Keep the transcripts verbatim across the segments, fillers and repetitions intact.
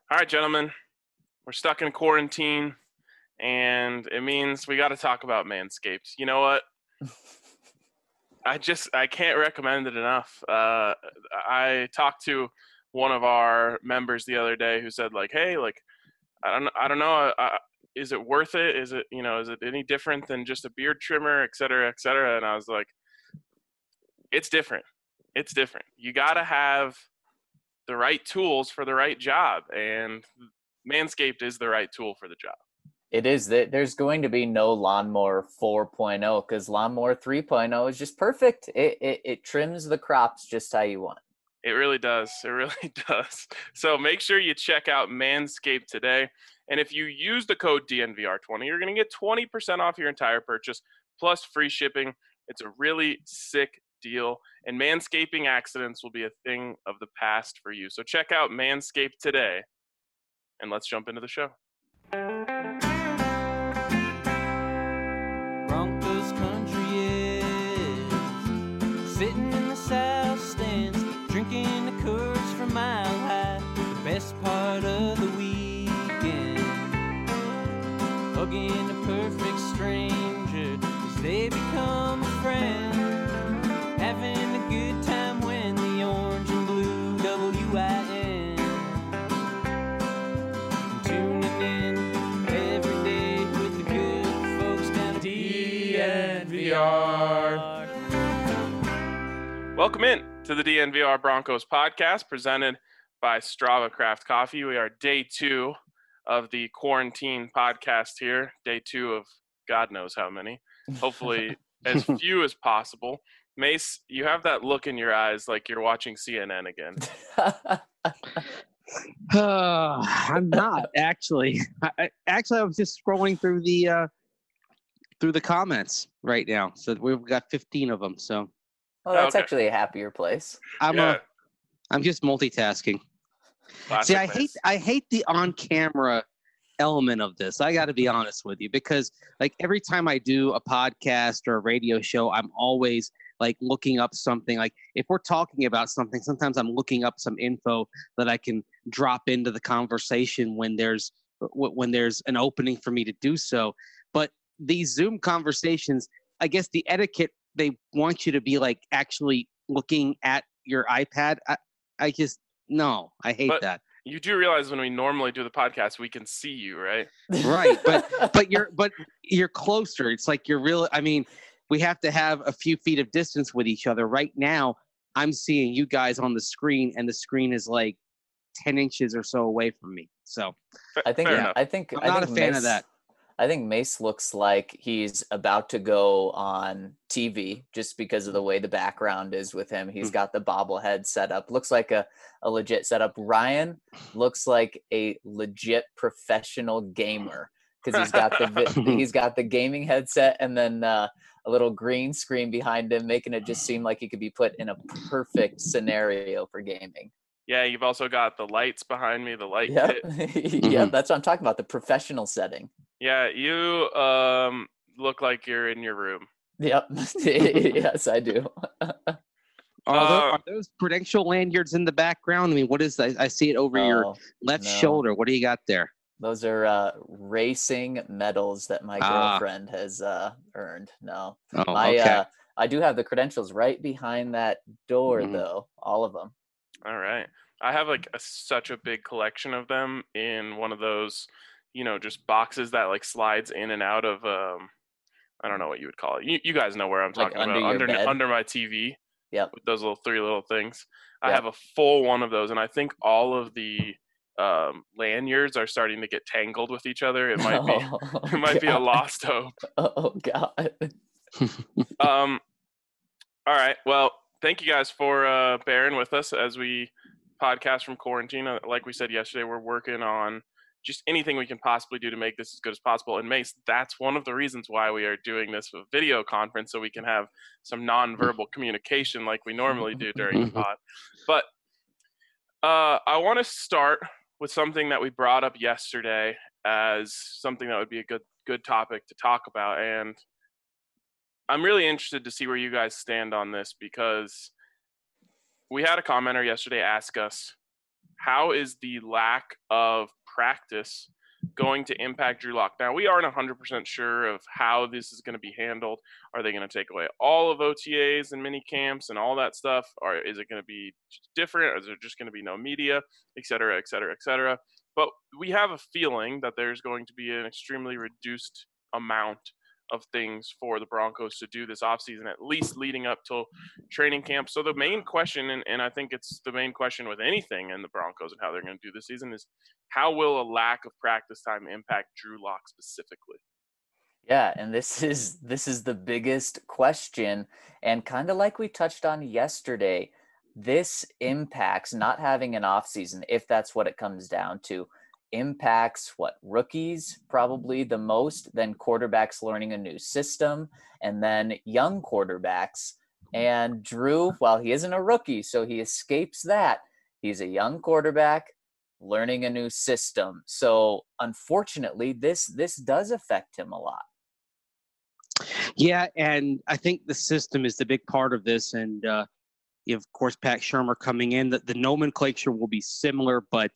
All right, gentlemen, we're stuck in quarantine, and it means we got to talk about Manscaped. You know what? I just I can't recommend it enough. Uh, I talked to one of our members the other day who said, like, "Hey, like, I don't I don't know, uh, is it worth it? Is it you know is it any different than just a beard trimmer, et cetera, et cetera?" And I was like, "It's different. It's different. You got to have the right tools for the right job, and Manscaped is the right tool for the job." It is that there's going to be no Lawnmower 4.0 because Lawnmower 3.0 is just perfect. It, it it trims the crops just how you want. It really does. It really does. So make sure you check out Manscaped today. And if you use the code D N V R twenty, you're going to get twenty percent off your entire purchase plus free shipping. It's a really sick deal. And manscaping accidents will be a thing of the past for you. So check out Manscaped today. And let's jump into the show. Broncos country is sitting in the south stands, drinking the Coors from Mile High. The best part of the weekend, hugging a perfect stranger as they become a friend, having a good time when the orange and blue W I N, tuning in every day with the good folks down at D N V R. Welcome in to the D N V R Broncos podcast presented by Strava Craft Coffee. We are day two of the quarantine podcast here. Day two of God knows how many. Hopefully as few as possible. Mace, you have that look in your eyes like you're watching C N N again. Uh, I'm not actually. I, I- actually, I was just scrolling through the uh, through the comments right now. So we've got fifteen of them. So Well, that's Okay. actually a happier place. I'm Yeah. uh, I'm just multitasking. Classic See, I Mace. hate I hate the on-camera element of this. I got to be honest with you because like every time I do a podcast or a radio show, I'm always like looking up something. Like if we're talking about something, sometimes I'm looking up some info that I can drop into the conversation when there's w- when there's an opening for me to do so. But these Zoom conversations, I guess the etiquette, they want you to be like actually looking at your iPad. I, I just no, I hate But- that. You do realize when we normally do the podcast, we can see you, right? Right, but but you're but you're closer. It's like you're real. I mean, we have to have a few feet of distance with each other. Right now, I'm seeing you guys on the screen, and the screen is like ten inches or so away from me. So Fa- I think fair Yeah. enough. I think I'm I not a think fan Mace, of that. I think Mace looks like he's about to go on T V just because of the way the background is with him. He's Mm. got the bobblehead set up. Looks like a, a legit setup. Ryan looks like a legit professional gamer because he's got the vi- he's got the gaming headset and then uh, a little green screen behind him, making it just seem like he could be put in a perfect scenario for gaming. Yeah, you've also got the lights behind me, the light Yep, kit. yep. That's what I'm talking about. The professional setting. Yeah, you um look like you're in your room. Yep. Yes, I do. are, those, Uh, are those prudential lanyards in the background? I mean, what is that? I see it over your Oh, left no. shoulder. What do you got there? Those are uh, racing medals that my Ah. girlfriend has uh, earned. No, Oh, my okay. uh, I do have the credentials right behind that door, Mhm. though. All of them. All right. I have like a, such a big collection of them in one of those, you know, just boxes that like slides in and out of um I don't know what you would call it. You, you guys know where I'm Like talking under about. your Under bed? under my T V Yep. with those little three little things. I Yep. have a full one of those, and I think all of the um, lanyards are starting to get tangled with each other. It might be Oh, it might be a God. lost hope. Oh God. Um, all right. Well, thank you guys for uh, bearing with us as we podcast from quarantine. Uh, Like we said yesterday, we're working on just anything we can possibly do to make this as good as possible. And Mace, that's one of the reasons why we are doing this with video conference, so we can have some nonverbal communication like we normally do during the pod. But uh, I want to start with something that we brought up yesterday as something that would be a good good topic to talk about, and I'm really interested to see where you guys stand on this because we had a commenter yesterday ask us, how is the lack of practice going to impact Drew Lock? Now, we aren't one hundred percent sure of how this is going to be handled. Are they going to take away all of O T As and mini camps and all that stuff? Or is it going to be different? Is there just going to be no media, et cetera, et cetera, et cetera? But we have a feeling that there's going to be an extremely reduced amount of things for the Broncos to do this offseason, at least leading up till training camp. So the main question, and, and I think it's the main question with anything in the Broncos and how they're going to do this season, is how will a lack of practice time impact Drew Lock specifically? Yeah, and this is this is the biggest question, and kind of like we touched on yesterday, this impacts not having an offseason, if that's what it comes down to, impacts what rookies probably the most, then quarterbacks learning a new system, and then young quarterbacks. And Drew, while he isn't a rookie, so he escapes that, he's a young quarterback learning a new system. So unfortunately, this this does affect him a lot. Yeah, and I think the system is the big part of this. And uh, you have, of course, Pat Shurmur coming in. The, the nomenclature will be similar, but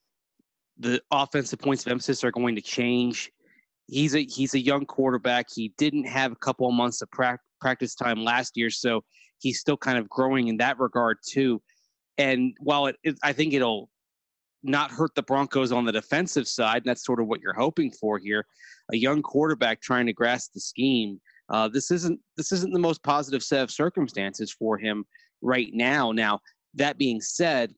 the offensive points of emphasis are going to change. He's a he's a young quarterback. He didn't have a couple of months of pra- practice time last year, so he's still kind of growing in that regard too. And while it, it I think it'll not hurt the Broncos on the defensive side, and that's sort of what you're hoping for here, a young quarterback trying to grasp the scheme. Uh, this isn't this isn't the most positive set of circumstances for him right now. Now, that being said,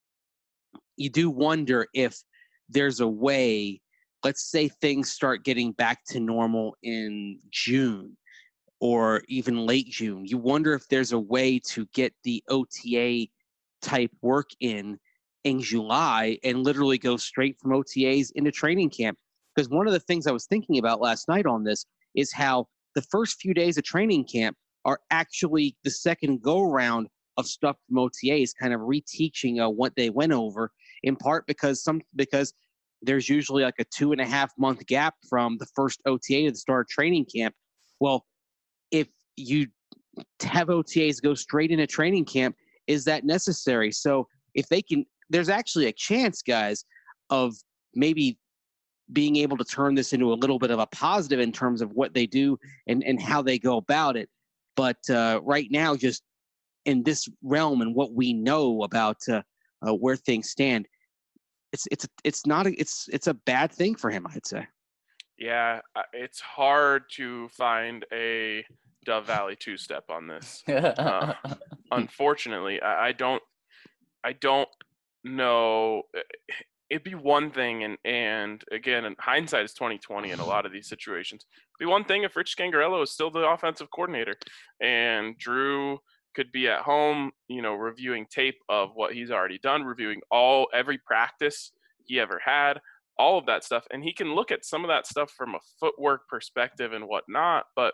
you do wonder if there's a way, let's say things start getting back to normal in June or even late June. You wonder if there's a way to get the O T A type work in in July and literally go straight from O T As into training camp. Because one of the things I was thinking about last night on this is how the first few days of training camp are actually the second go round of stuff from O T As, kind of reteaching uh, what they went over, in part because some because there's usually like a two and a half month gap from the first O T A to the start of training camp. Well, if you have O T As go straight into training camp, is that necessary? So if they can, there's actually a chance, guys, of maybe being able to turn this into a little bit of a positive in terms of what they do and, and how they go about it. But uh, right now, just in this realm and what we know about uh, uh, where things stand, it's it's it's not a, it's it's a bad thing for him, I'd say. Yeah, it's hard to find a Dove Valley two-step on this. uh, unfortunately, I, I don't I don't know. It'd be one thing, and and again, in hindsight is twenty twenty in a lot of these situations. It'd be one thing if Rich Scangarello is still the offensive coordinator, and Drew could be at home, you know, reviewing tape of what he's already done, reviewing all every practice he ever had, all of that stuff, and he can look at some of that stuff from a footwork perspective and whatnot. But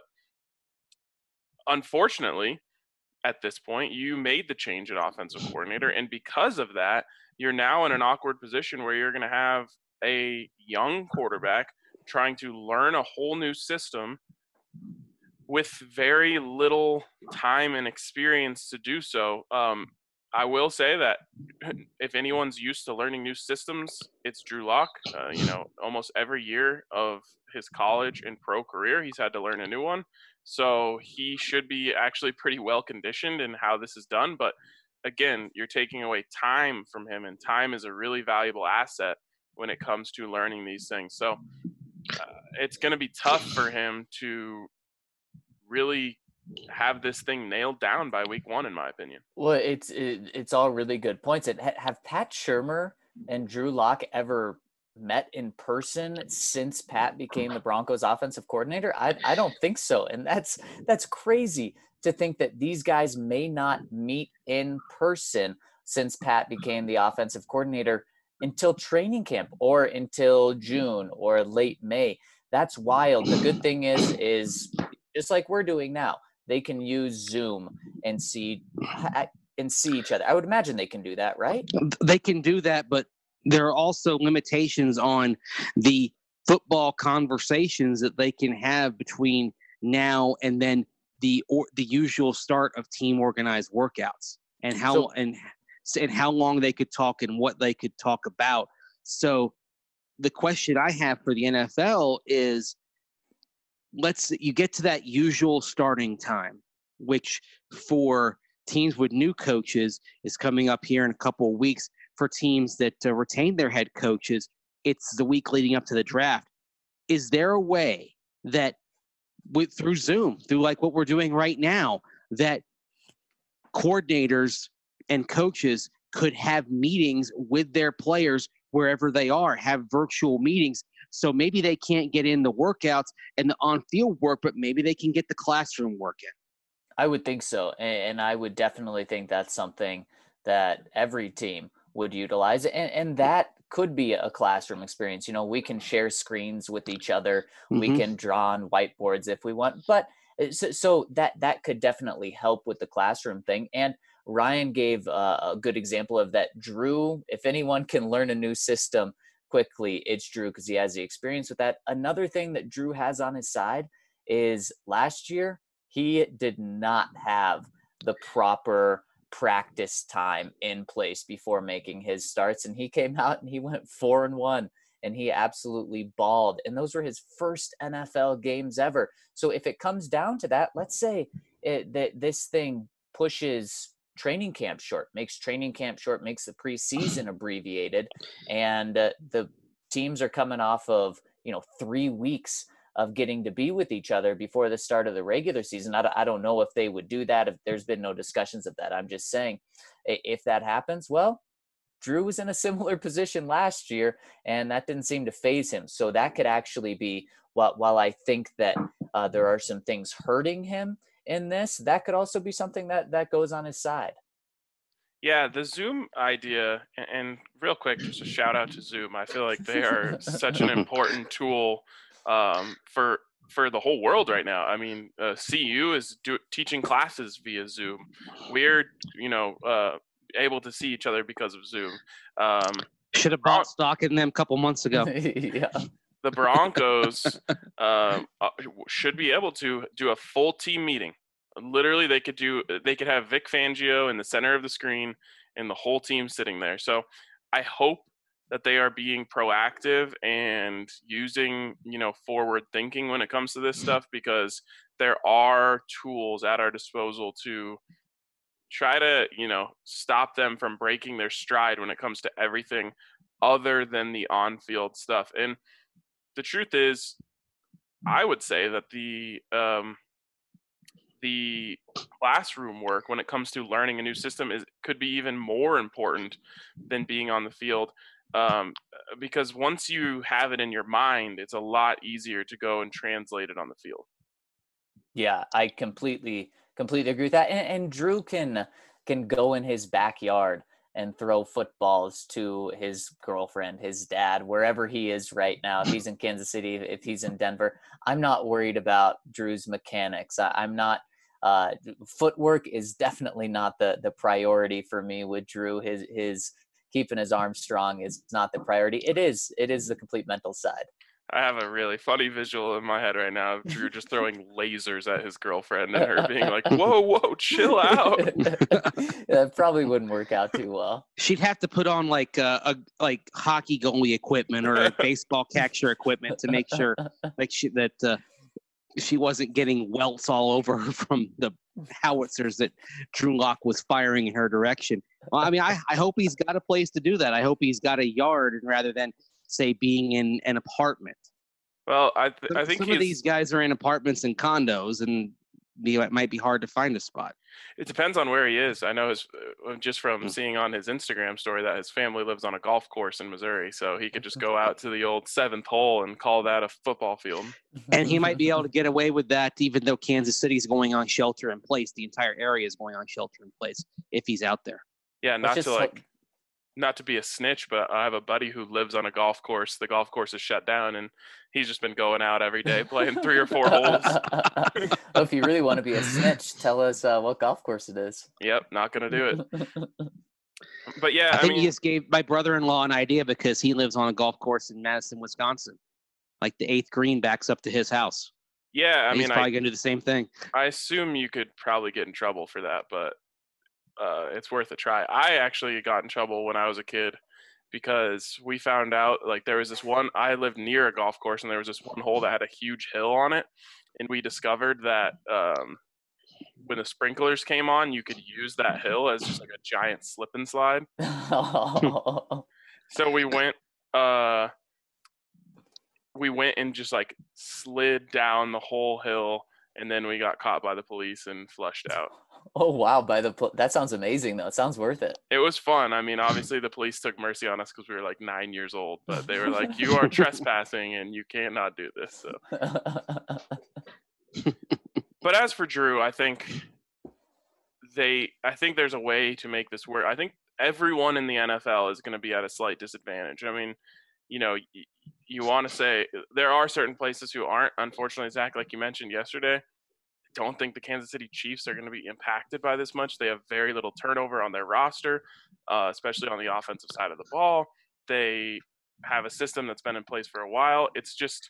unfortunately, at this point, you made the change at offensive coordinator, and because of that, you're now in an awkward position where you're going to have a young quarterback trying to learn a whole new system with very little time and experience to do so. Um, I will say that if anyone's used to learning new systems, it's Drew Lock. Uh, you know, almost every year of his college and pro career, he's had to learn a new one. So he should be actually pretty well conditioned in how this is done. But again, you're taking away time from him, and time is a really valuable asset when it comes to learning these things. So uh, it's going to be tough for him to really have this thing nailed down by week one, in my opinion. Well, it's it, it's all really good points. And ha- have Pat Shurmur and Drew Lock ever met in person since Pat became the Broncos offensive coordinator? I I don't think so. And that's that's crazy to think that these guys may not meet in person since Pat became the offensive coordinator until training camp or until June or late May. That's wild. The good thing is, is just like we're doing now, they can use Zoom and see and see each other. I would imagine they can do that, right? They can do that, but there are also limitations on the football conversations that they can have between now and then the or the usual start of team organized workouts, and how So, and and how long they could talk and what they could talk about. So the question I have for the N F L is, let's you get to that usual starting time, which for teams with new coaches is coming up here in a couple of weeks. For teams that uh, retain their head coaches, it's the week leading up to the draft. Is there a way that with through Zoom, through like what we're doing right now, that coordinators and coaches could have meetings with their players wherever they are, have virtual meetings? So maybe they can't get in the workouts and the on-field work, but maybe they can get the classroom work in. I would think so. And I would definitely think that's something that every team would utilize. And, and that could be a classroom experience. You know, we can share screens with each other. Mm-hmm. We can draw on whiteboards if we want. But so, so that, that could definitely help with the classroom thing. And Ryan gave uh, a good example of that. Drew, if anyone can learn a new system quickly, it's Drew, because he has the experience with that. Another thing that Drew has on his side is last year, he did not have the proper practice time in place before making his starts. And he came out and he went four and one and he absolutely balled. And those were his first N F L games ever. So if it comes down to that, let's say it, that this thing pushes training camp short, makes training camp short, makes the preseason abbreviated. And uh, the teams are coming off of, you know, three weeks of getting to be with each other before the start of the regular season. I, I don't know if they would do that, if there's been no discussions of that. I'm just saying, if that happens, well, Drew was in a similar position last year, and that didn't seem to faze him. So that could actually be, while, while I think that uh, there are some things hurting him in this, that could also be something that, that goes on his side. Yeah, the Zoom idea, and real quick, just a shout out to Zoom. I feel like they are such an important tool um, for for the whole world right now. I mean, uh, C U is do, teaching classes via Zoom. We're, you know, uh, able to see each other because of Zoom. Um, Should have bought stock in them a couple months ago. Yeah. The Broncos uh, should be able to do a full team meeting. Literally, they could do. They could have Vic Fangio in the center of the screen and the whole team sitting there. So I hope that they are being proactive and using, you know, forward thinking when it comes to this stuff, because there are tools at our disposal to try to, you know, stop them from breaking their stride when it comes to everything other than the on-field stuff. And the truth is, I would say that the um, the classroom work when it comes to learning a new system is could be even more important than being on the field. Um, because once you have it in your mind, it's a lot easier to go and translate it on the field. Yeah, I completely, completely agree with that. And, and Drew can, can go in his backyard and throw footballs to his girlfriend, his dad, wherever he is right now. If he's in Kansas City, if he's in Denver, I'm not worried about Drew's mechanics. I, I'm not, uh, footwork is definitely not the, the priority for me with Drew. His, his, keeping his arms strong is not the priority. It is. It is the complete mental side. I have a really funny visual in my head right now of Drew just throwing lasers at his girlfriend and her being like, whoa, whoa, chill out. That probably wouldn't work out too well. She'd have to put on like uh, a like hockey goalie equipment or a baseball catcher equipment to make sure like she, that uh, she wasn't getting welts all over her from the howitzers that Drew Lock was firing in her direction. Well, I mean, I, I hope he's got a place to do that. I hope he's got a yard rather than, say, being in an apartment. Well, I th- some, I think some of these guys are in apartments and condos, and it might be hard to find a spot. It depends on where he is. I know his uh, just from Mm. seeing on his Instagram story that his family lives on a golf course in Missouri, so he could just go out to the old seventh hole and call that a football field. And he might be able to get away with that, even though Kansas City is going on shelter in place. The entire area is going on shelter in place if he's out there. Yeah, not Let's to just like. hope- Not to be a snitch, but I have a buddy who lives on a golf course. The golf course is shut down, and he's just been going out every day playing three or four holes. Well, if you really want to be a snitch, tell us uh, what golf course it is. Yep, not gonna do it. But yeah, I I, think mean, he just gave my brother-in-law an idea because he lives on a golf course in Madison, Wisconsin. Like the eighth green backs up to his house. yeah, I And he's mean, probably I, going to do the same thing. I assume you could probably get in trouble for that, but uh, it's worth a try. I actually got in trouble when I was a kid because we found out like there was this one. I lived near a golf course, and there was this one hole that had a huge hill on it, and we discovered that um, when the sprinklers came on, you could use that hill as just like a giant slip and slide. So we went. Uh, we went and just like slid down the whole hill, and then we got caught by the police and flushed out. Oh wow! By the pol- that sounds amazing though. It sounds worth it. It was fun. I mean, obviously the police took mercy on us because we were like nine years old, but they were like, "You are trespassing, and you cannot do this." So. But as for Drew, I think they. I think there's a way to make this work. I think everyone in the N F L is going to be at a slight disadvantage. I mean, you know, you, you want to say there are certain places who aren't. Unfortunately, Zach, like you mentioned yesterday, I don't think the Kansas City Chiefs are going to be impacted by this much. They have very little turnover on their roster, uh, especially on the offensive side of the ball. They have a system that's been in place for a while. It's just,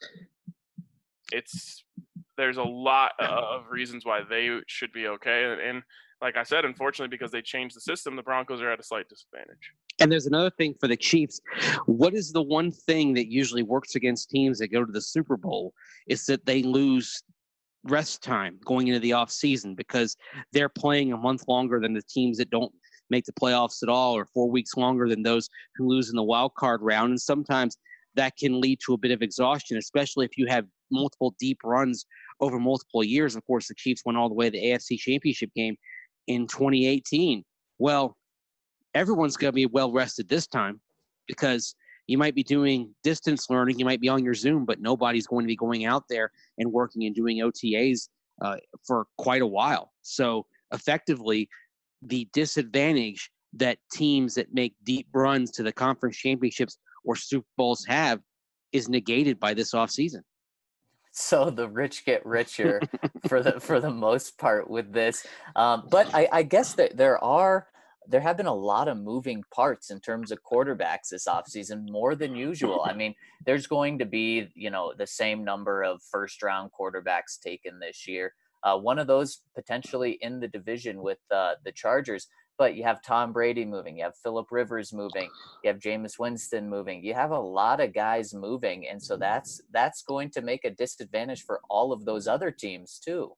it's, there's a lot of reasons why they should be okay. And, and like I said, unfortunately, because they changed the system, the Broncos are at a slight disadvantage. And there's another thing for the Chiefs. What is the one thing that usually works against teams that go to the Super Bowl is that they lose rest time going into the offseason because they're playing a month longer than the teams that don't make the playoffs at all, or four weeks longer than those who lose in the wild card round. And sometimes that can lead to a bit of exhaustion, especially if you have multiple deep runs over multiple years. Of course, the Chiefs went all the way to the A F C Championship game in twenty eighteen. Well, everyone's going to be well rested this time because you might be doing distance learning, you might be on your Zoom, but nobody's going to be going out there and working and doing O T As uh, for quite a while. So effectively, the disadvantage that teams that make deep runs to the conference championships or Super Bowls have is negated by this offseason. So the rich get richer for the for the most part with this. Um, but I, I guess that there are there have been a lot of moving parts in terms of quarterbacks this offseason, more than usual. I mean, there's going to be, you know, the same number of first round quarterbacks taken this year. Uh, one of those potentially in the division with uh, the Chargers. But you have Tom Brady moving, you have Phillip Rivers moving, you have Jameis Winston moving. You have a lot of guys moving, and so that's that's going to make a disadvantage for all of those other teams too.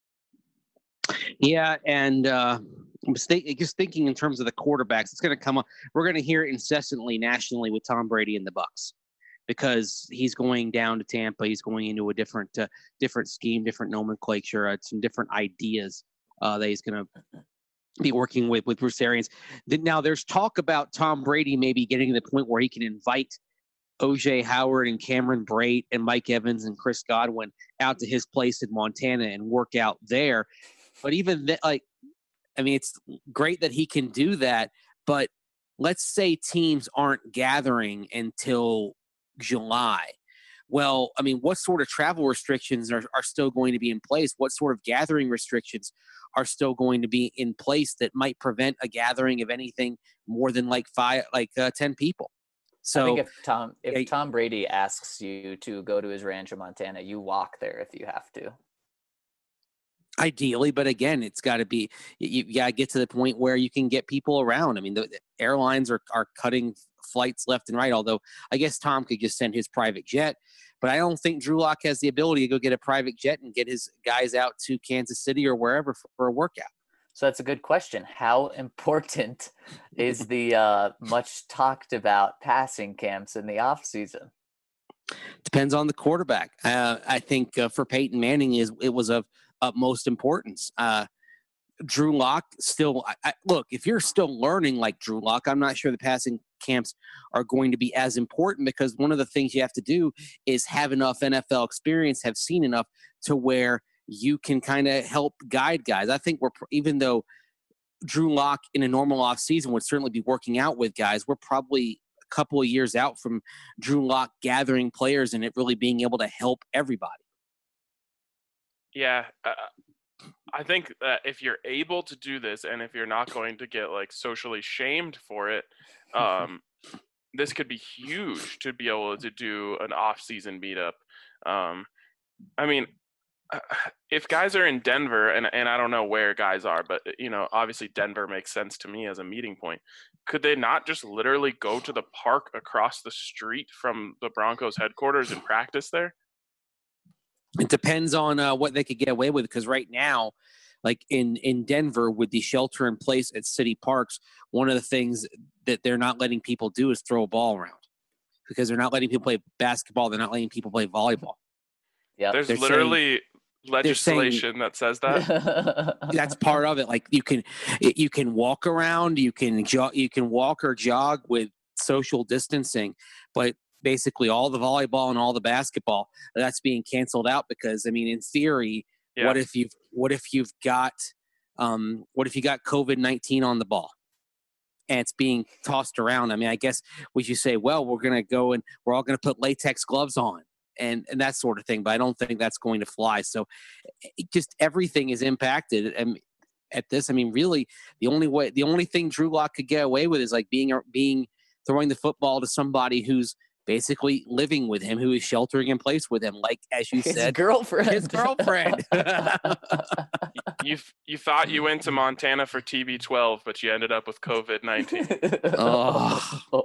Yeah, and uh, I'm st- just thinking in terms of the quarterbacks, it's going to come up. We're going to hear it incessantly nationally with Tom Brady and the Bucs because he's going down to Tampa. He's going into a different uh, different scheme, different nomenclature, uh, some different ideas uh, that he's going to be working with with Bruce Arians. Now, there's talk about Tom Brady maybe getting to the point where he can invite O J Howard and Cameron Brate and Mike Evans and Chris Godwin out to his place in Montana and work out there. But even th- like, I mean, it's great that he can do that. But let's say teams aren't gathering until July. Well, I mean, what sort of travel restrictions are, are still going to be in place? What sort of gathering restrictions are still going to be in place that might prevent a gathering of anything more than like five, like uh, ten people? So I think if Tom, if yeah, Tom Brady asks you to go to his ranch in Montana, you walk there if you have to. Ideally, but again, it's got to be, you, you got to get to the point where you can get people around. I mean, the, the airlines are, are cutting flights left and right, although I guess Tom could just send his private jet, but I don't think Drew Lock has the ability to go get a private jet and get his guys out to Kansas City or wherever for, for a workout. So that's a good question. How important is the uh, much talked about passing camps in the off season? Depends on the quarterback. Uh, I think uh, for Peyton Manning, is it was of utmost importance. Uh, Drew Lock still, I, I, look, if you're still learning like Drew Lock, I'm not sure the passing camps are going to be as important because one of the things you have to do is have enough N F L experience, have seen enough to where you can kind of help guide guys. I think we're, even though Drew Lock in a normal off season would certainly be working out with guys, we're probably a couple of years out from Drew Lock gathering players and it really being able to help everybody. Yeah, uh, I think that if you're able to do this and if you're not going to get like socially shamed for it, um, this could be huge to be able to do an off-season meetup. Um, I mean, if guys are in Denver, and, and I don't know where guys are, but, you know, obviously Denver makes sense to me as a meeting point. Could they not just literally go to the park across the street from the Broncos headquarters and practice there? It depends on uh, what they could get away with, because right now, like in, in Denver with the shelter in place at city parks, one of the things that they're not letting people do is throw a ball around, because they're not letting people play basketball. They're not letting people play volleyball. Yeah, There's they're literally saying, legislation that says that. That's part of it. Like you can, you can walk around, you can jog, you can walk or jog with social distancing, but basically all the volleyball and all the basketball, that's being canceled out because, I mean, in theory, Yeah. what if you've, what if you've got, um, what if you got COVID nineteen on the ball and it's being tossed around? I mean, I guess we should say, well, we're going to go and we're all going to put latex gloves on and, and that sort of thing. But I don't think that's going to fly. So it just everything is impacted. And at this, I mean, really the only way, the only thing Drew Lock could get away with is like being, being, throwing the football to somebody who's basically living with him, who is sheltering in place with him, like as you his said, girlfriend. his girlfriend. You you thought you went to Montana for T B twelve, but you ended up with COVID nineteen. Oh.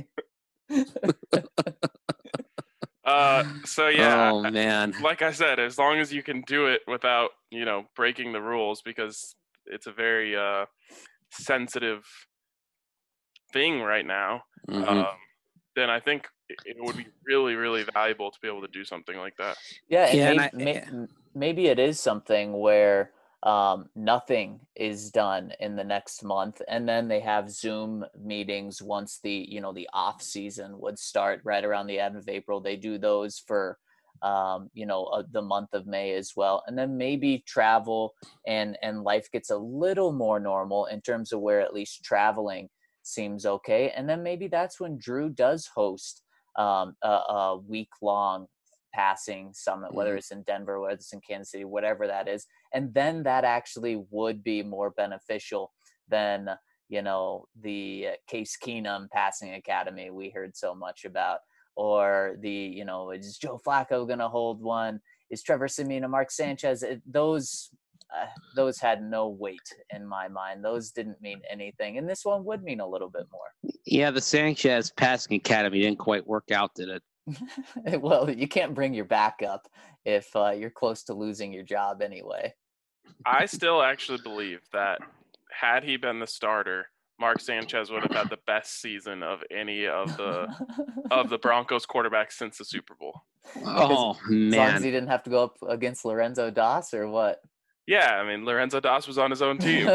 Uh, so yeah, Oh man. like I said, as long as you can do it without, you know, breaking the rules, because it's a very uh, sensitive thing right now. Mhm. Um, then I think it would be really, really valuable to be able to do something like that. Yeah, and Yeah, and maybe, I- may, maybe it is something where um, nothing is done in the next month, and then they have Zoom meetings once the you know the off season would start right around the end of April. They do those for um, you know uh, the month of May as well, and then maybe travel and and life gets a little more normal in terms of where at least traveling seems okay, and then maybe that's when Drew does host um, a, a week long passing summit, whether Mhm. it's in Denver, whether it's in Kansas City, whatever that is. And then that actually would be more beneficial than, you know, the Case Keenum passing academy we heard so much about, or the, you know, is Joe Flacco going to hold one? Is Trevor Siemian and Mark Sanchez? It, those, uh, those had no weight in my mind. Those didn't mean anything. And this one would mean a little bit more. Yeah, the Sanchez passing academy didn't quite work out, did it? Well, you can't bring your backup if uh, you're close to losing your job anyway. I still actually believe that had he been the starter, Mark Sanchez would have had the best season of any of the of the Broncos quarterbacks since the Super Bowl. Oh As long as man. he didn't have to go up against Lorenzo Doss or what? Yeah, I mean Lorenzo Doss was on his own team.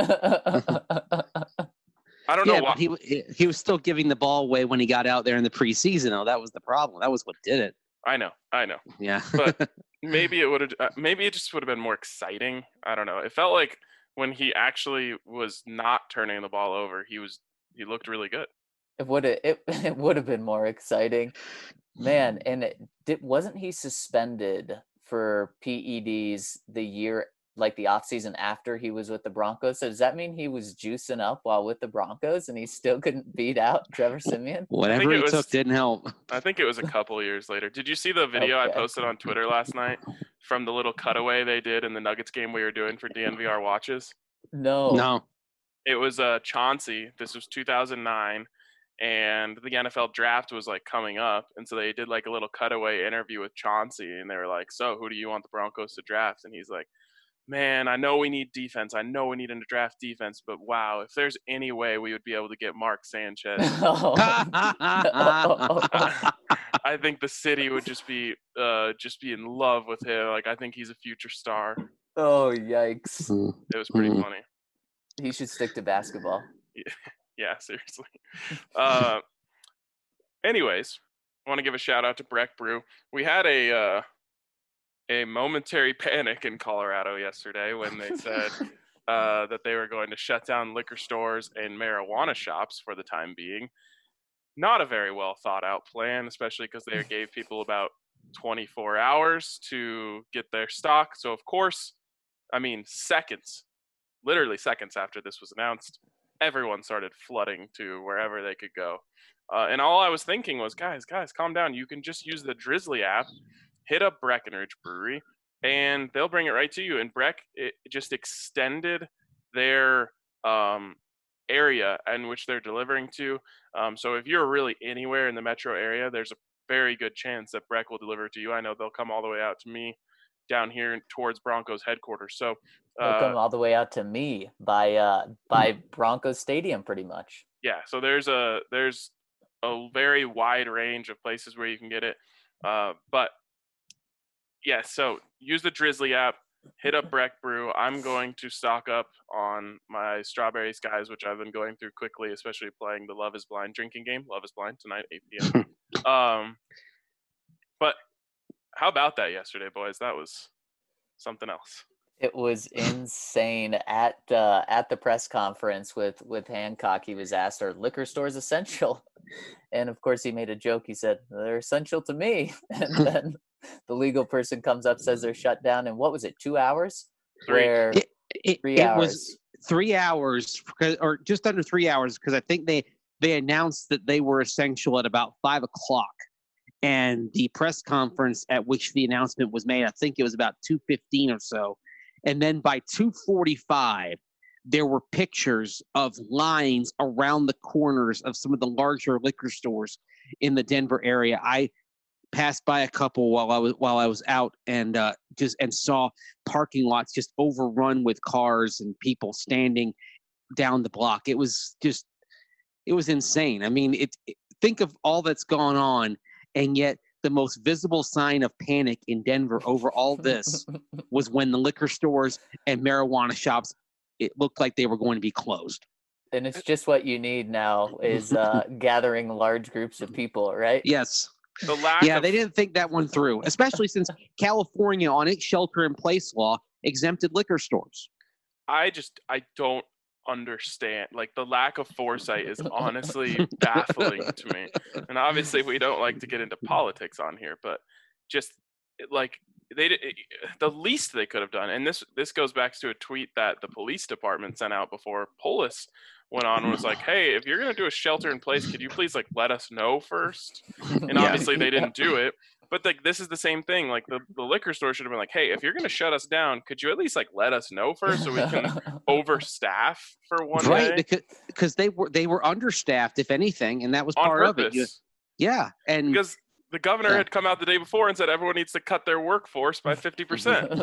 I don't Yeah, know why. but he w- he was still giving the ball away when he got out there in the preseason. Though that was the problem. That was what did it. I know, I know. Yeah. But maybe it would have. Uh, maybe it just would have been more exciting. I don't know. It felt like when he actually was not turning the ball over, he was he looked really good. It would have it, it would have been more exciting, man. And it did, wasn't he suspended for P E Ds the year, like the off season after he was with the Broncos? So does that mean he was juicing up while with the Broncos and he still couldn't beat out Trevor Siemian? Whatever it he was- took didn't help. I think it was a couple of years later. Did you see the video I Okay. posted on Twitter last night from the little cutaway they did in the Nuggets game we were doing for D N V R watches? No. No. It was uh, Chauncey. This was two thousand nine, and the N F L draft was like coming up, and so they did like a little cutaway interview with Chauncey, and they were like, "So, who do you want the Broncos to draft?" And he's like, "Man, I know we need defense. I know we need to draft defense, but wow, if there's any way we would be able to get Mark Sanchez, I think the city would just be uh, just be in love with him. Like, I think he's a future star." Oh, yikes. It was pretty Mhm. funny. He should stick to basketball. Yeah, seriously. Uh, anyways, I want to give a shout out to Breck Brew. We had a uh, a momentary panic in Colorado yesterday when they said uh, that they were going to shut down liquor stores and marijuana shops for the time being. Not a very well thought out plan, especially because they gave people about twenty-four hours to get their stock. So, of course, I mean, seconds, literally seconds after this was announced, everyone started flooding to wherever they could go. Uh, and all I was thinking was, guys, guys, calm down. You can just use the Drizzly app, hit up Breckenridge Brewery, and they'll bring it right to you. And Breck it just extended their um, area in which they're delivering to. Um, so if you're really anywhere in the metro area, there's a very good chance that Breck will deliver to you. I know they'll come all the way out to me down here towards Broncos headquarters. So They'll uh, come all the way out to me by uh, by Broncos Stadium, pretty much. yeah, so there's a there's a very wide range of places where you can get it. Uh, but yeah, so use the Drizzly app, hit up Breck Brew. I'm going to stock up on my Strawberry Skies, which I've been going through quickly, especially playing the Love is Blind drinking game. Love is Blind tonight, eight p.m. um, but how about that yesterday, boys? That was something else. It was insane at uh, at the press conference with with Hancock. He was asked, "Are liquor stores essential?" And of course, he made a joke. He said, "They're essential to me." And then the legal person comes up, says they're shut down in what was it, two hours? Three. Where It, it, three it hours. was three hours, because- or just under three hours, because I think they they announced that they were essential at about five o'clock, and the press conference at which the announcement was made, I think it was about two fifteen or so, and then by two forty-five, there were pictures of lines around the corners of some of the larger liquor stores in the Denver area. I passed by a couple while I was while I was out, and uh, just and saw parking lots just overrun with cars and people standing down the block. It was just, it was insane. I mean, it, it think of all that's gone on, and yet the most visible sign of panic in Denver over all this was when the liquor stores and marijuana shops, it looked like they were going to be closed. And it's just what you need now is uh, gathering large groups of people, right? Yes. The lack Yeah, of, they didn't think that one through, especially since California, on its shelter-in-place law, exempted liquor stores. I just I don't understand. Like the lack of foresight is honestly baffling to me. And obviously, we don't like to get into politics on here, but just like they did, the least they could have done. And this this goes back to a tweet that the police department sent out before Polis went on and was like, "Hey, if you're gonna do a shelter in place, could you please like let us know first?" And Yeah. obviously, they didn't do it. But like this is the same thing. Like the, the liquor store should have been like, "Hey, if you're gonna shut us down, could you at least like let us know first so we can overstaff for one Right, day because because they were they were understaffed, if anything, and that was on part of purpose?" it. You- yeah, and Because the governor Yeah. had come out the day before and said everyone needs to cut their workforce by fifty percent.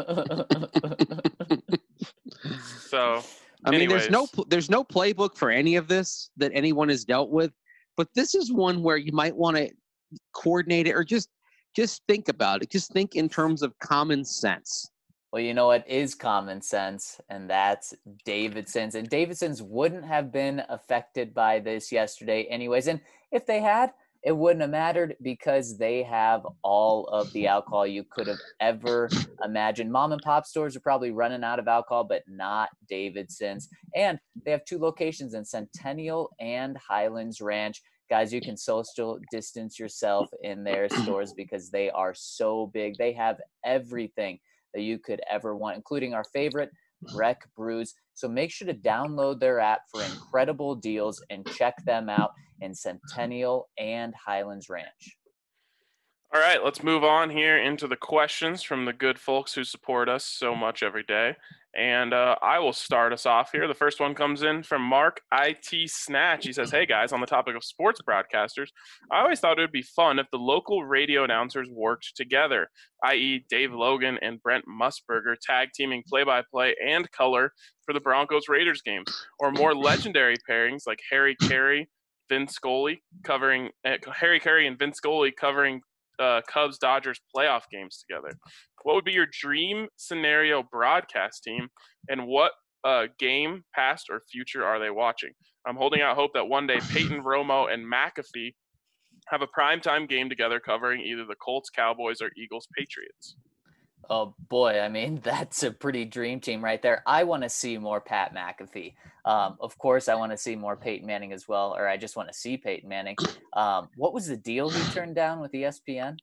So I mean, there's no anyways. pl- there's no playbook for any of this that anyone has dealt with, but this is one where you might want to coordinate it or just just think about it. Just think in terms of common sense. Well, you know what is common sense, and that's Davidson's. And Davidson's wouldn't have been affected by this yesterday anyways. And if they had, it wouldn't have mattered because they have all of the alcohol you could have ever imagined. Mom and pop stores are probably running out of alcohol, but not Davidson's. And they have two locations in Centennial and Highlands Ranch. Guys, you can social distance yourself in their stores because they are so big. They have everything that you could ever want, including our favorite Breck Brews. So make sure to download their app for incredible deals and check them out in Centennial and Highlands Ranch. All right, let's move on here into the questions from the good folks who support us so much every day. And uh, I will start us off here. The first one comes in from Mark I T Snatch. He says, "Hey guys, on the topic of sports broadcasters, I always thought it would be fun if the local radio announcers worked together, that is. Dave Logan and Brent Musburger tag teaming play-by-play and color for the Broncos Raiders games, or more legendary pairings like Harry Carey, Vince Scully covering uh, Harry Carey and Vince Scully covering uh, Cubs Dodgers playoff games together. What would be your dream scenario broadcast team, and what uh, game, past or future, are they watching? I'm holding out hope that one day Peyton, Romo, and McAfee have a primetime game together covering either the Colts, Cowboys, or Eagles, Patriots." Oh boy, I mean, that's a pretty dream team right there. I want to see more Pat McAfee. Um, of course, I want to see more Peyton Manning as well, or I just want to see Peyton Manning. Um, what was the deal he turned down with E S P N?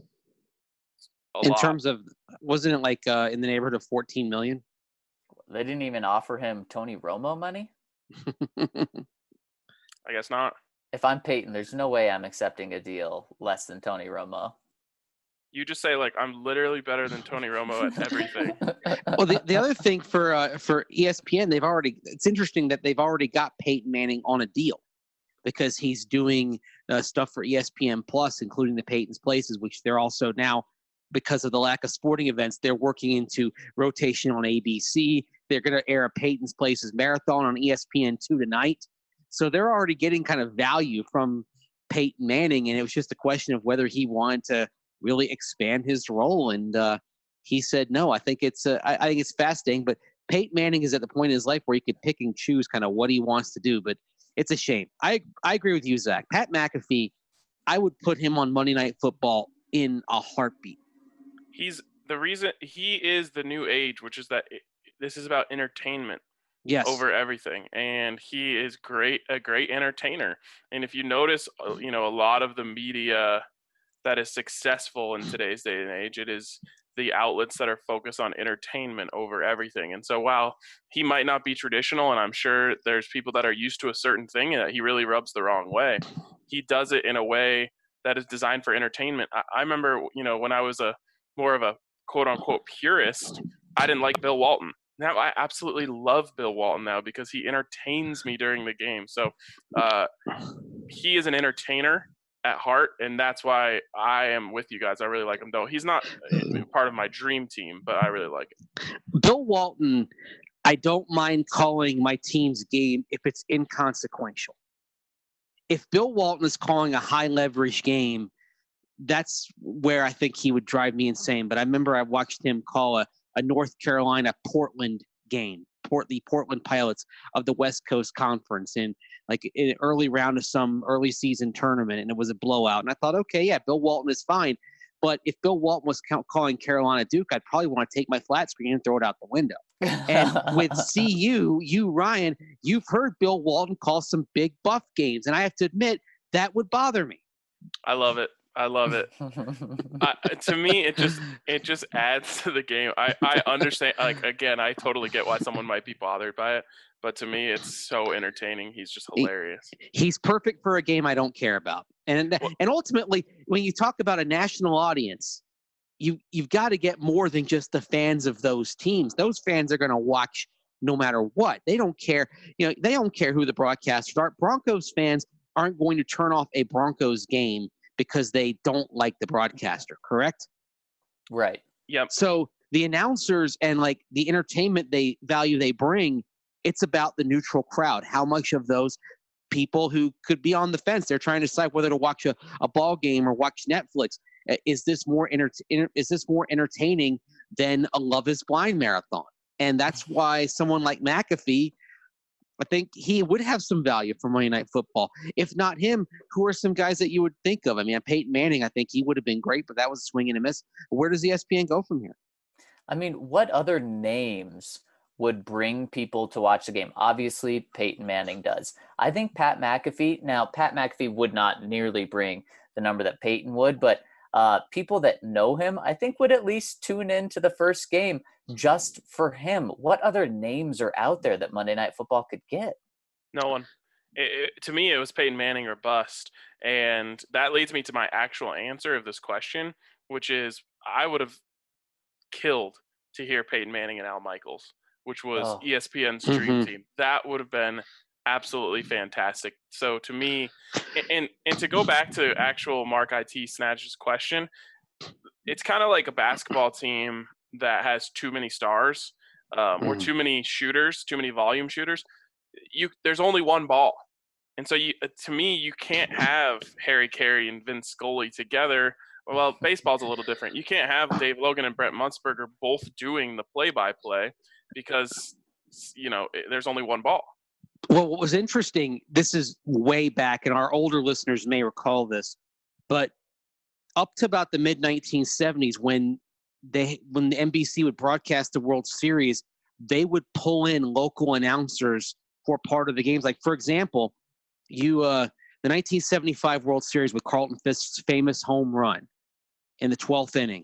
A In lot. terms of, wasn't it like uh, in the neighborhood of fourteen million? They didn't even offer him Tony Romo money? I guess not. If I'm Peyton, there's no way I'm accepting a deal less than Tony Romo. You just say like, I'm literally better than Tony Romo at everything. Well, the, the other thing for uh, for E S P N, they've already. It's interesting that they've already got Peyton Manning on a deal because he's doing uh, stuff for E S P N Plus, including the Peyton's Places, which they're also now, because of the lack of sporting events, they're working into rotation on A B C. They're going to air a Peyton's Places marathon on E S P N two tonight. So they're already getting kind of value from Peyton Manning, and it was just a question of whether he wanted to really expand his role. And uh, he said no. I think it's uh, I, I think it's fascinating, but Peyton Manning is at the point in his life where he could pick and choose kind of what he wants to do. But it's a shame. I I agree with you, Zach. Pat McAfee, I would put him on Monday Night Football in a heartbeat. He's the reason he is the new age, which is that it, this is about entertainment. Yes. Over everything, and he is great, a great entertainer. And if you notice, you know, a lot of the media that is successful in today's day and age, it is the outlets that are focused on entertainment over everything. And so while he might not be traditional, and I'm sure there's people that are used to a certain thing that he really rubs the wrong way, he does it in a way that is designed for entertainment. I, I remember, you know, when I was a more of a quote unquote purist, I didn't like Bill Walton. Now I absolutely love Bill Walton now because he entertains me during the game. So uh, he is an entertainer at heart, and that's why I am with you guys. I really like him, though. He's not part of my dream team, but I really like it. Bill Walton, I don't mind calling my team's game if it's inconsequential. If Bill Walton is calling a high leverage game, that's where I think he would drive me insane. But I remember I watched him call a a North Carolina Portland game, Port the Portland Pilots of the West Coast Conference in like in an early round of some early season tournament, and it was a blowout. And I thought, okay, yeah, Bill Walton is fine. But if Bill Walton was calling Carolina Duke, I'd probably want to take my flat screen and throw it out the window. And with C U, you, Ryan, you've heard Bill Walton call some big buff games. And I have to admit, that would bother me. I love it. I love it. uh, to me, it just it just adds to the game. I, I understand. Like again, I totally get why someone might be bothered by it, but to me, it's so entertaining. He's just hilarious. He, he's perfect for a game I don't care about. And well, and ultimately, when you talk about a national audience, you you've got to get more than just the fans of those teams. Those fans are going to watch no matter what. They don't care. You know, they don't care who the broadcasters are. Broncos fans aren't going to turn off a Broncos game because they don't like the broadcaster, correct? Right. Yep. So the announcers and like the entertainment they value they bring, it's about the neutral crowd. How much of those people who could be on the fence, they're trying to decide whether to watch a, a ball game or watch Netflix. Is this more enter, is this more entertaining than a Love Is Blind marathon? And that's why someone like McAfee, I think he would have some value for Monday Night Football. If not him, who are some guys that you would think of? I mean, Peyton Manning, I think he would have been great, but that was a swing and a miss. Where does E S P N go from here? I mean, what other names would bring people to watch the game? Obviously, Peyton Manning does. I think Pat McAfee, now Pat McAfee would not nearly bring the number that Peyton would, but uh, people that know him, I think would at least tune in to the first game just for him. What other names are out there that Monday Night Football could get? No one. It, it, to me, it was Peyton Manning or bust. And that leads me to my actual answer of this question, which is I would have killed to hear Peyton Manning and Al Michaels, which was Oh. E S P N's dream Mhm. team. That would have been absolutely fantastic. So to me, and and to go back to actual Mark I T Snatch's question, it's kind of like a basketball team that has too many stars um, or Mhm. too many shooters, too many volume shooters. You there's only one ball, and so you to me you can't have Harry Carey and Vince Scully together. Well, baseball's a little different. You can't have Dave Logan and Brent Musburger both doing the play-by-play because you know there's only one ball. Well, what was interesting, this is way back, and our older listeners may recall this, but up to about the mid nineteen seventies, when they when the N B C would broadcast the World Series, they would pull in local announcers for part of the games. Like, for example, you uh, the nineteen seventy-five World Series with Carlton Fisk's famous home run in the twelfth inning.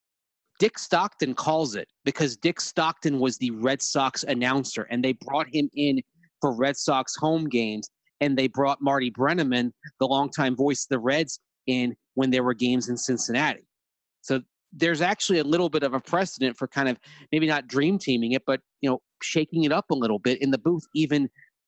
Dick Stockton calls it because Dick Stockton was the Red Sox announcer, and they brought him in for Red Sox home games, and they brought Marty Brennaman, the longtime voice of the Reds, in when there were games in Cincinnati. So there's actually a little bit of a precedent for kind of maybe not dream teaming it, but, you know, shaking it up a little bit in the booth, even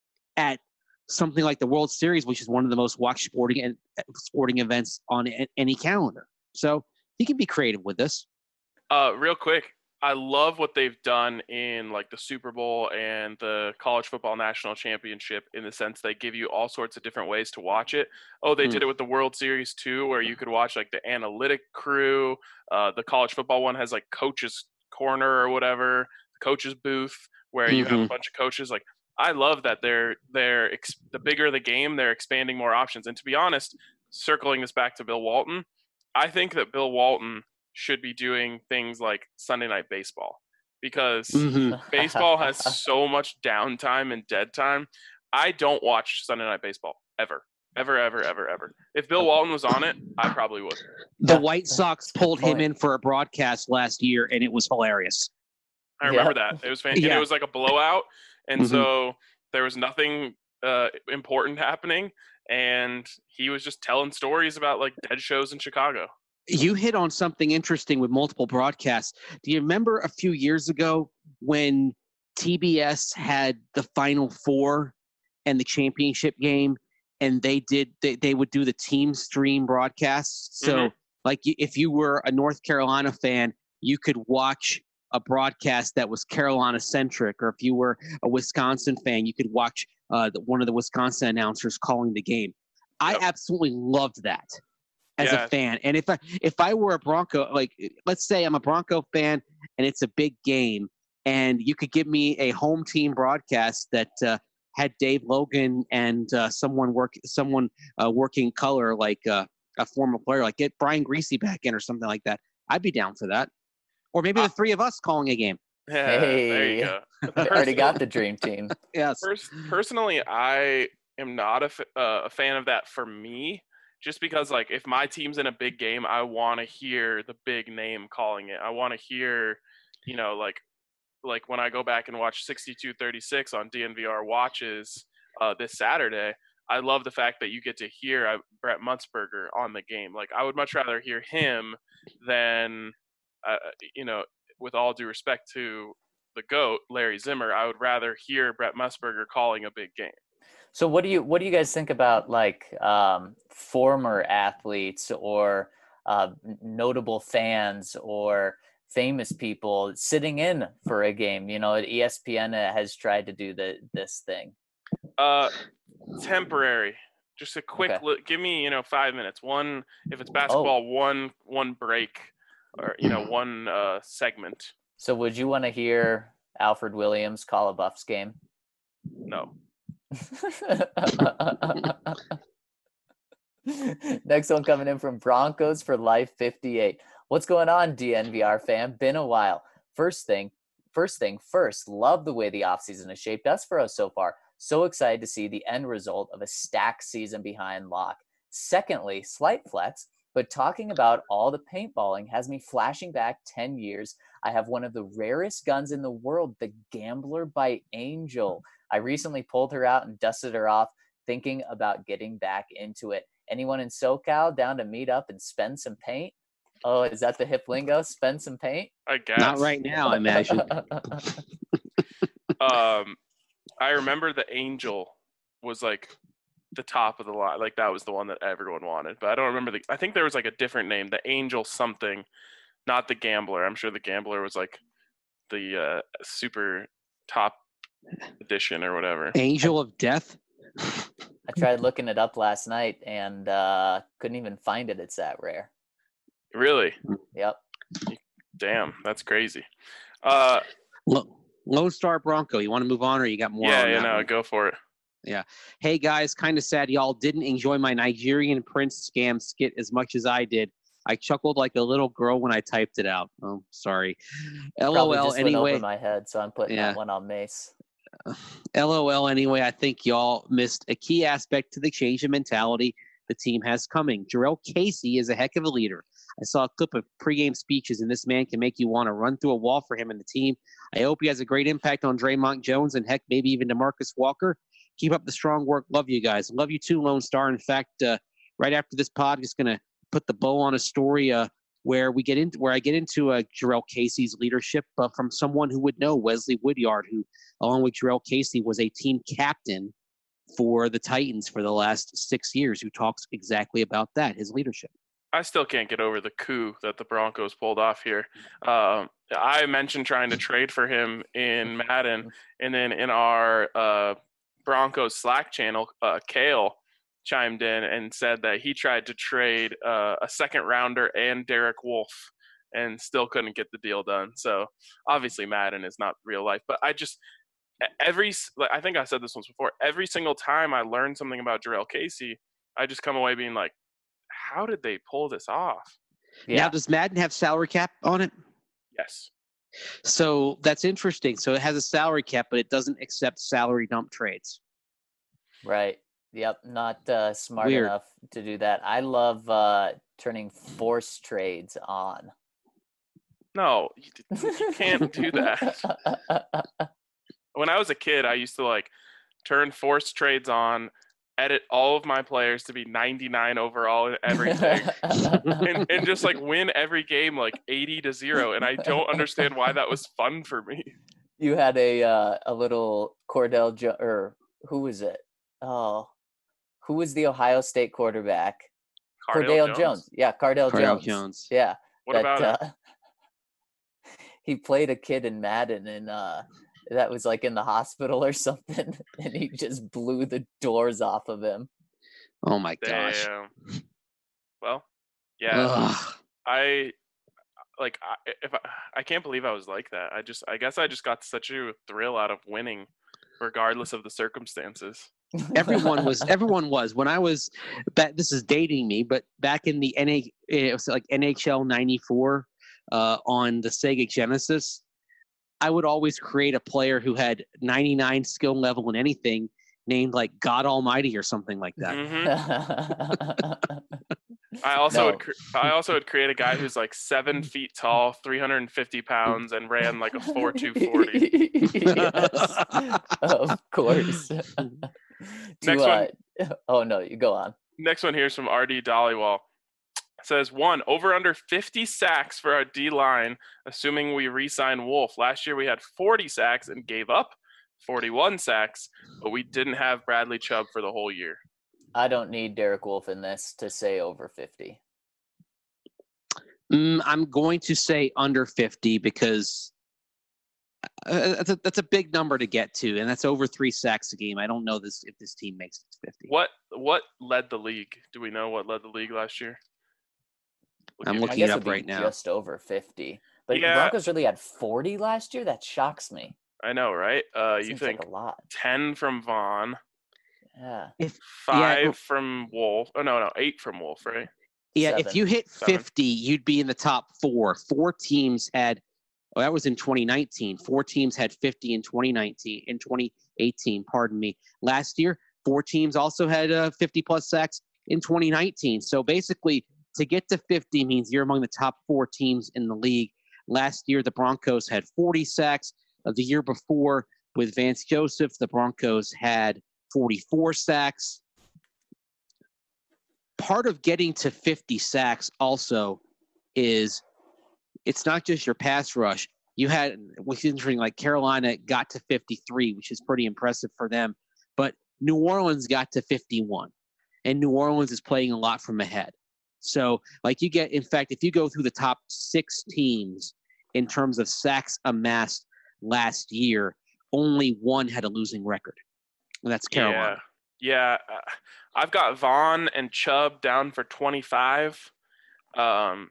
at something like the World Series, which is one of the most watched sporting and sporting events on a, any calendar. So he can be creative with this. Uh, real quick, I love what they've done in like the Super Bowl and the College Football National Championship, in the sense they give you all sorts of different ways to watch it. Oh, they Mm. did it with the World Series too, where you could watch like the analytic crew. Uh, the college football one has like coaches corner or whatever, coaches booth, where you have a Mhm. bunch of coaches. Like, I love that they're they're ex- the bigger the game, they're expanding more options. And to be honest, circling this back to Bill Walton, I think that Bill Walton should be doing things like Sunday Night Baseball, because Mhm. baseball has so much downtime and dead time. I don't watch Sunday Night Baseball ever, ever, ever, ever, ever. If Bill Walton was on it, I probably would. The White Sox Good pulled him point. in for a broadcast last year, and it was hilarious. I remember Yep. that. It was fan- and Yeah. it was like a blowout, and Mhm. so there was nothing uh, important happening, and he was just telling stories about like dead shows in Chicago. You hit on something interesting with multiple broadcasts. Do you remember a few years ago when T B S had the Final Four and the championship game, and they did they, they would do the team stream broadcasts? So, Mhm. like, y- if you were a North Carolina fan, you could watch a broadcast that was Carolina centric, or if you were a Wisconsin fan, you could watch uh, the, one of the Wisconsin announcers calling the game. I Yep. absolutely loved that as Yeah. a fan. And if I if I were a Bronco, like let's say I'm a Bronco fan and it's a big game, and you could give me a home team broadcast that uh, had Dave Logan and uh, someone work someone uh, working color, like uh, a former player, like get Brian Greasy back in or something like that, I'd be down for that. Or maybe Uh, the three of us calling a game. Yeah, there Hey. you go. We already got the dream team. Yes. Pers- personally, I am not a, f- uh, a fan of that for me, just because like if my team's in a big game, I want to hear the big name calling it. I want to hear, you know, like like when I go back and watch sixty-two thirty-six on D N V R Watches uh, this Saturday, I love the fact that you get to hear uh, Brett Mutzberger on the game. Like, I would much rather hear him than, uh, you know, with all due respect to the GOAT, Larry Zimmer, I would rather hear Brett Musburger calling a big game. So what do you what do you guys think about like um, former athletes or uh, notable fans or famous people sitting in for a game? You know, E S P N has tried to do the this thing. Uh, temporary. Just a quick Okay. look. Give me, you know, five minutes. One, if it's basketball, Oh. one one break, or you know, one uh, segment. So would you want to hear Alfred Williams call a Buffs game? No. Next one coming in from Broncos for Life fifty-eight. What's going on, D N V R fam? Been a while. First thing, first thing first, love the way the offseason has shaped us for us so far. So excited to see the end result of a stacked season behind lock. Secondly, slight flex, but talking about all the paintballing has me flashing back ten years. I have one of the rarest guns in the world, the Gambler by Angel. I recently pulled her out and dusted her off, thinking about getting back into it. Anyone in SoCal down to meet up and spend some paint? Oh, is that the hip lingo? Spend some paint? I guess. Not right now, I imagine. Um, I remember the Angel was like the top of the line. Like, that was the one that everyone wanted. But I don't remember the. I think there was like a different name, the Angel something, not the Gambler. I'm sure the Gambler was like the uh, super top edition or whatever. Angel of Death. I tried looking it up last night and uh, couldn't even find it. It's that rare. Really? Yep. Damn, that's crazy. Uh, Lo- Lone Star Bronco. You want to move on, or you got more? yeah, on you that know, one? go for it. Hey guys, kind of sad y'all didn't enjoy my Nigerian Prince scam skit as much as I did. I chuckled like a little girl when I typed it out. Oh, sorry. Probably LOL just went anyway. over my head, so I'm putting Yeah. that one on Mace. LOL anyway. I think y'all missed a key aspect to the change in mentality the team has coming. Jarrell Casey is a heck of a leader. I saw a clip of pregame speeches, and this man can make you want to run through a wall for him and the team. I hope he has a great impact on Draymond Jones and, heck, maybe even DeMarcus Walker. Keep up the strong work. Love you guys. Love you too, Lone Star. In fact, uh, right after this pod, just going to put the bow on a story. Uh, where we get into where I get into uh, Jarrell Casey's leadership, but from someone who would know, Wesley Woodyard, who along with Jarrell Casey was a team captain for the Titans for the last six years, who talks exactly about that, his leadership. I still can't get over the coup that the Broncos pulled off here. Um, I mentioned trying to trade for him in Madden, and then in our uh, Broncos Slack channel, uh, Kale chimed in and said that he tried to trade uh, a second rounder and Derek Wolfe and still couldn't get the deal done. So obviously Madden is not real life, but I just every I think I said this once before. Every single time I learn something about Jarrell Casey, I just come away being like, how did they pull this off? Yeah. Now, does Madden have salary cap on it? Yes. So that's interesting. So it has a salary cap, but it doesn't accept salary dump trades. Right. Yep. Not uh, smart Weird. enough to do that. I love uh, turning force trades on. No, you, you can't do that. When I was a kid, I used to like turn force trades on, edit all of my players to be ninety-nine overall in everything, and, and just like win every game like eighty to zero. And I don't understand why that was fun for me. You had a uh, a little Cordell jo- or who was it? Oh, who was the Ohio State quarterback? Cardale Cordell Jones. Jones. Yeah, Cardell, Cardale Jones. Jones. Yeah. What that, about uh, it? He played a kid in Madden, and uh, that was like in the hospital or something, and he just blew the doors off of him. Oh my gosh. Damn. Well, yeah. Ugh. I like I, if I, I can't believe I was like that. I just I guess I just got such a thrill out of winning, regardless of the circumstances. everyone was everyone was when I was back. This is dating me, but back in the N A, it was like N H L ninety-four uh, on the Sega Genesis. I would always create a player who had ninety-nine skill level in anything, named like God Almighty or something like that. Mm-hmm. I also No. would cre- I also would create a guy who's like seven feet tall, three hundred fifty pounds, and ran like a four two forty. Yes, of course. To, Next uh, one. Oh no, you go on. Next one here is from R D Dollywall. It says one over under fifty sacks for our D line, assuming we re-sign Wolf. Last year we had forty sacks and gave up forty-one sacks, but we didn't have Bradley Chubb for the whole year. I don't need Derek Wolfe in this to say over fifty. Mm, I'm going to say under fifty because uh, that's, a, that's a big number to get to, and that's over three sacks a game. I don't know this if this team makes it to fifty. What what led the league? Do we know what led the league last year? Would I'm you- looking I guess it up it'd be right now. just over fifty. But Yeah. Broncos really had forty last year? That shocks me. I know, right? Uh, you Seems think like a lot. ten from Vaughn, Yeah. five well- from Wolf. Oh no, no, eight from Wolf, right? Yeah, Seven. if you hit Seven. fifty, you'd be in the top four. Four teams had, oh, that was in twenty nineteen. Four teams had fifty in twenty nineteen, in twenty eighteen, pardon me. Last year, four teams also had uh, fifty plus sacks in twenty nineteen. So basically, to get to fifty means you're among the top four teams in the league. Last year, the Broncos had forty sacks. Uh, the year before, with Vance Joseph, the Broncos had forty-four sacks. Part of getting to fifty sacks also is it's not just your pass rush. You had, which is interesting, like Carolina got to fifty-three, which is pretty impressive for them. But New Orleans got to fifty-one, and New Orleans is playing a lot from ahead. So, like you get, in fact, if you go through the top six teams in terms of sacks amassed last year, only one had a losing record, and that's Carolina. Yeah, yeah. Uh, I've got Vaughn and Chubb down for twenty-five. Um,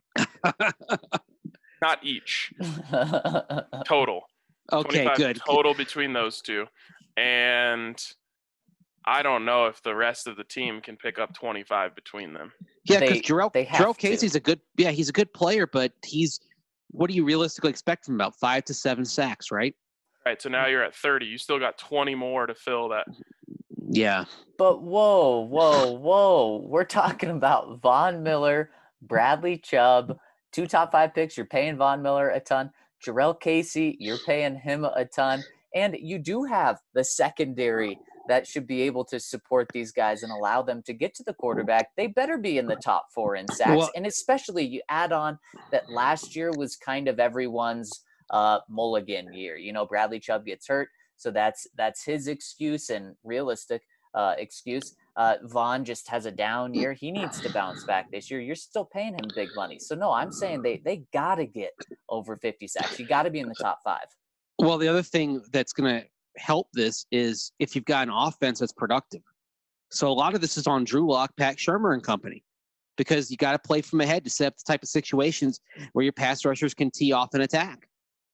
not each. Total. Okay, twenty-five good. Total between those two. And I don't know if the rest of the team can pick up twenty-five between them. Yeah, because They- Jarrell, they have Jarrell to. Casey's a good, yeah, he's a good player, but he's, what do you realistically expect from him? About five to seven sacks, right? Right, so now you're at thirty. You still got twenty more to fill that. Yeah. But whoa, whoa, whoa. We're talking about Von Miller, Bradley Chubb, two top five picks. You're paying Von Miller a ton. Jarrell Casey, you're paying him a ton. And you do have the secondary that should be able to support these guys and allow them to get to the quarterback, they better be in the top four in sacks. Well- and especially you add on that last year was kind of everyone's uh, mulligan year. You know, Bradley Chubb gets hurt, so that's that's his excuse and realistic uh, excuse. Uh, Vaughn just has a down year. He needs to bounce back this year. You're still paying him big money. So, no, I'm saying they, they got to get over fifty sacks. You got to be in the top five. Well, the other thing that's going to help this is if you've got an offense that's productive. So a lot of this is on Drew Lock, Pat Shurmur and company, because you got to play from ahead to set up the type of situations where your pass rushers can tee off an attack.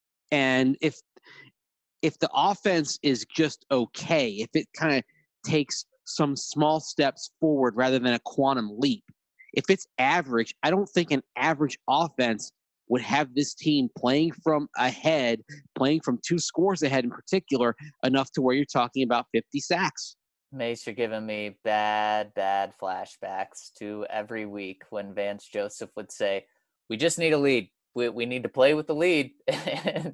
And if if the offense is just okay, if it kind of takes some small steps forward rather than a quantum leap, if it's average, I don't think an average offense would have this team playing from ahead, playing from two scores ahead in particular, enough to where you're talking about fifty sacks. Mace, you're giving me bad, bad flashbacks to every week when Vance Joseph would say, we just need a lead. We we need to play with the lead. And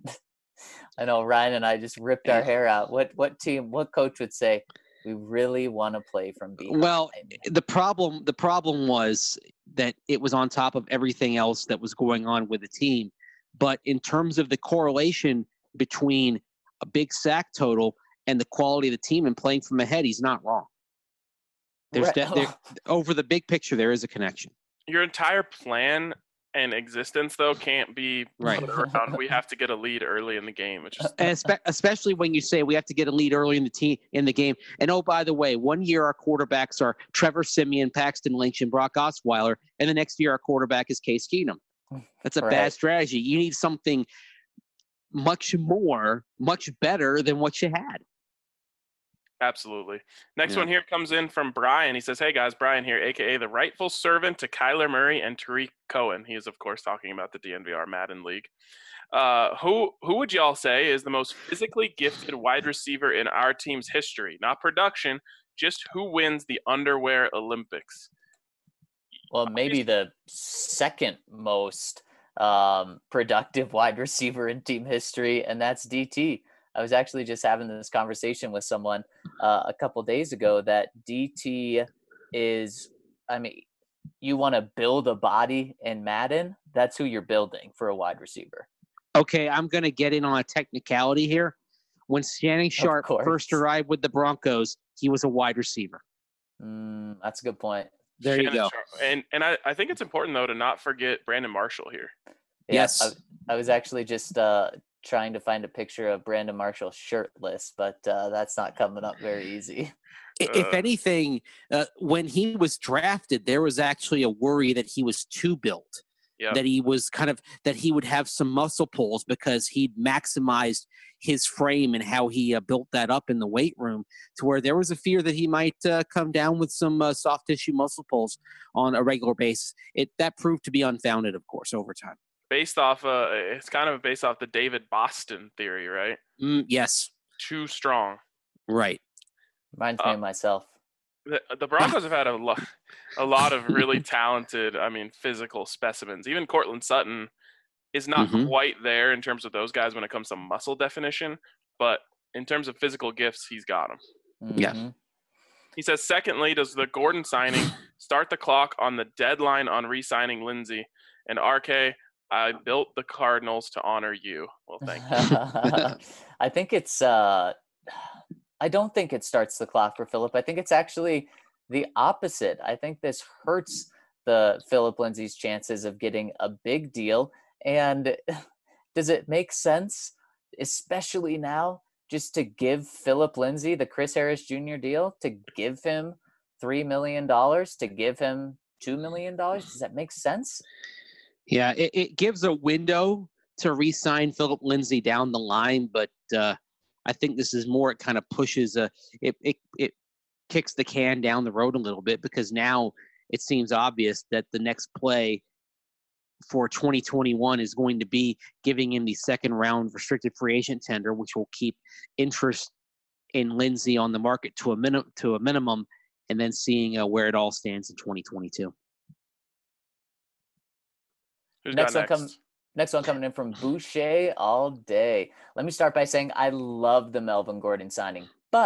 I know Ryan and I just ripped our hair out. What what team, what coach would say, we really want to play from behind? Well, the problem the problem was that it was on top of everything else that was going on with the team. But in terms of the correlation between a big sack total and the quality of the team and playing from ahead, he's not wrong. There's Right. de- there, over the big picture, there is a connection. Your entire plan and existence, though, can't be Right. put around. We have to get a lead early in the game. It's just And espe- especially when you say we have to get a lead early in the team in the game. And oh, by the way, one year our quarterbacks are Trevor Siemian, Paxton Lynch, and Brock Osweiler, and the next year our quarterback is Case Keenum. That's a Right. bad strategy. You need something much more, much better than what you had. absolutely. Next Yeah. one here comes in from Brian. He says, hey guys, Brian here, aka the rightful servant to Kyler Murray and Tariq Cohen. He is, of course, talking about the D N V R Madden League. Uh, who who would y'all say is the most physically gifted wide receiver in our team's history? Not production, just who wins the underwear Olympics? Well, maybe the second most um, productive wide receiver in team history, and that's D T. I was actually just having this conversation with someone uh, a couple days ago that D T is, I mean, you want to build a body in Madden, that's who you're building for a wide receiver. Okay, I'm going to get in on a technicality here. When Shannon Sharp course. first arrived with the Broncos, he was a wide receiver. Mm, that's a good point. There you Shannon go. Sharp. And and I, I think it's important, though, to not forget Brandon Marshall here. Yeah, Yes. I, I was actually just uh, trying to find a picture of Brandon Marshall shirtless, but uh, that's not coming up very easy. I- If Uh. anything, uh, when he was drafted, there was actually a worry that he was too built. Yep. That he was kind of that he would have some muscle pulls because he'd maximized his frame and how he uh, built that up in the weight room, to where there was a fear that he might uh, come down with some uh, soft tissue muscle pulls on a regular basis. It that proved to be unfounded, of course, over time. Based off, uh, it's kind of based off the David Boston theory, right? Mm, yes, Too strong. right. Reminds me Uh, of myself. The, the Broncos have had a lot, a lot of really talented, I mean, physical specimens. Even Cortland Sutton is not Mhm. quite there in terms of those guys when it comes to muscle definition, but in terms of physical gifts, he's got them. yeah. Mhm. He says, secondly, does the Gordon signing start the clock on the deadline on re-signing Lindsey? And R K, I built the Cardinals to honor you. Well, thank you. I think it's. Uh, I don't think it starts the clock for Philip. I think it's actually the opposite. I think this hurts the Philip Lindsay's chances of getting a big deal. And does it make sense, especially now, just to give Philip Lindsay the Chris Harris Junior deal, to give him three million dollars, to give him two million dollars? Does that make sense? Yeah, it, it gives a window to re-sign Philip Lindsay down the line, but uh, I think this is more. It kind of pushes a it, it it kicks the can down the road a little bit, because now it seems obvious that the next play for twenty twenty-one is going to be giving him the second round restricted free agent tender, which will keep interest in Lindsay on the market to a minimum to a minimum, and then seeing uh, where it all stands in twenty twenty-two. Who's Next got one next? come- Next one coming in from Boucher all day. Let me start by saying I love the Melvin Gordon signing, but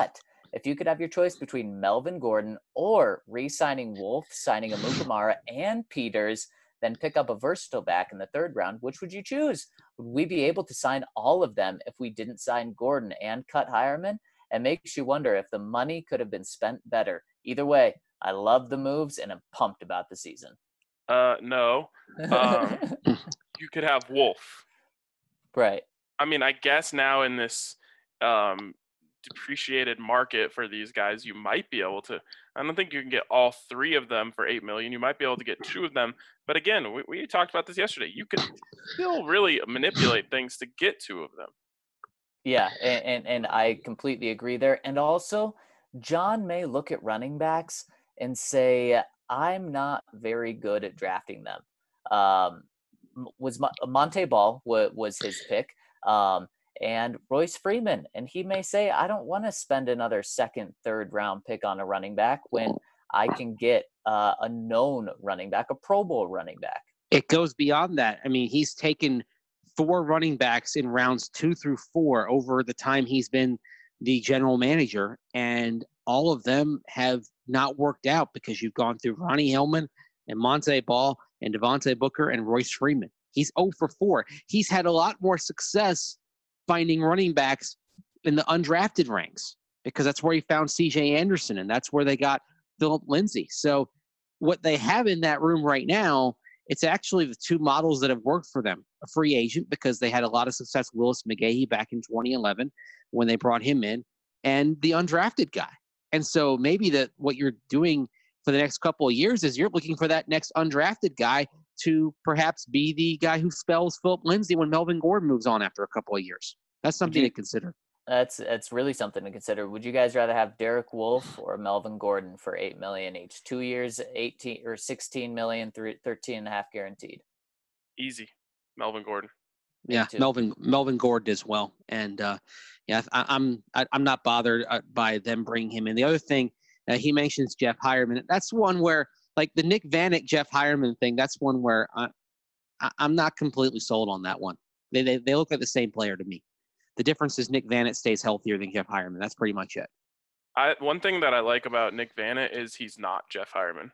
If you could have your choice between Melvin Gordon or re-signing Wolf, signing a Mukamara and Peters, then pick up a versatile back in the third round, which would you choose? Would we be able to sign all of them if we didn't sign Gordon and cut Hireman? It makes you wonder if the money could have been spent better. Either way, I love the moves and I'm pumped about the season. Uh, no. Um, you could have Wolf. Right. I mean, I guess now in this um, depreciated market for these guys, you might be able to. I don't think you can get all three of them for eight million. You might be able to get two of them, but again, we, we talked about this yesterday. You could still really manipulate things to get two of them. Yeah, and, and and I completely agree there. And also, John may look at running backs and say, "I'm not very good at drafting them." Um, was Monte Ball was, was his pick. Um, and Royce Freeman. And he may say, I don't want to spend another second, third round pick on a running back when I can get uh, a known running back, a Pro Bowl running back. It goes beyond that. I mean, he's taken four running backs in rounds two through four over the time he's been the general manager, and all of them have not worked out because you've gone through Ronnie Hillman and Monte Ball and Devontae Booker and Royce Freeman. He's zero for four. He's had a lot more success finding running backs in the undrafted ranks because that's where he found C J Anderson, and that's where they got Philip Lindsay. So what they have in that room right now, it's actually the two models that have worked for them. A free agent because they had a lot of success, Willis McGahee, back in twenty eleven when they brought him in, and the undrafted guy. And so maybe that what you're doing for the next couple of years is you're looking for that next undrafted guy to perhaps be the guy who spells Philip Lindsay when Melvin Gordon moves on after a couple of years. That's something you, to consider. That's that's really something to consider. Would you guys rather have Derek Wolfe or Melvin Gordon for eight million each? Two years, eighteen or sixteen million, three, thirteen and a half guaranteed. Easy, Melvin Gordon. Yeah, Melvin Melvin Gordon as well. And uh, yeah, I, I'm I, I'm not bothered by them bringing him in. The other thing uh, he mentions Jeff Hireman. That's one where like the Nick Vanick Jeff Hireman thing. That's one where I, I I'm not completely sold on that one. They, they they look like the same player to me. The difference is Nick Vannett stays healthier than Jeff Hireman. That's pretty much it. I one thing that I like about Nick Vannett is he's not Jeff Hireman.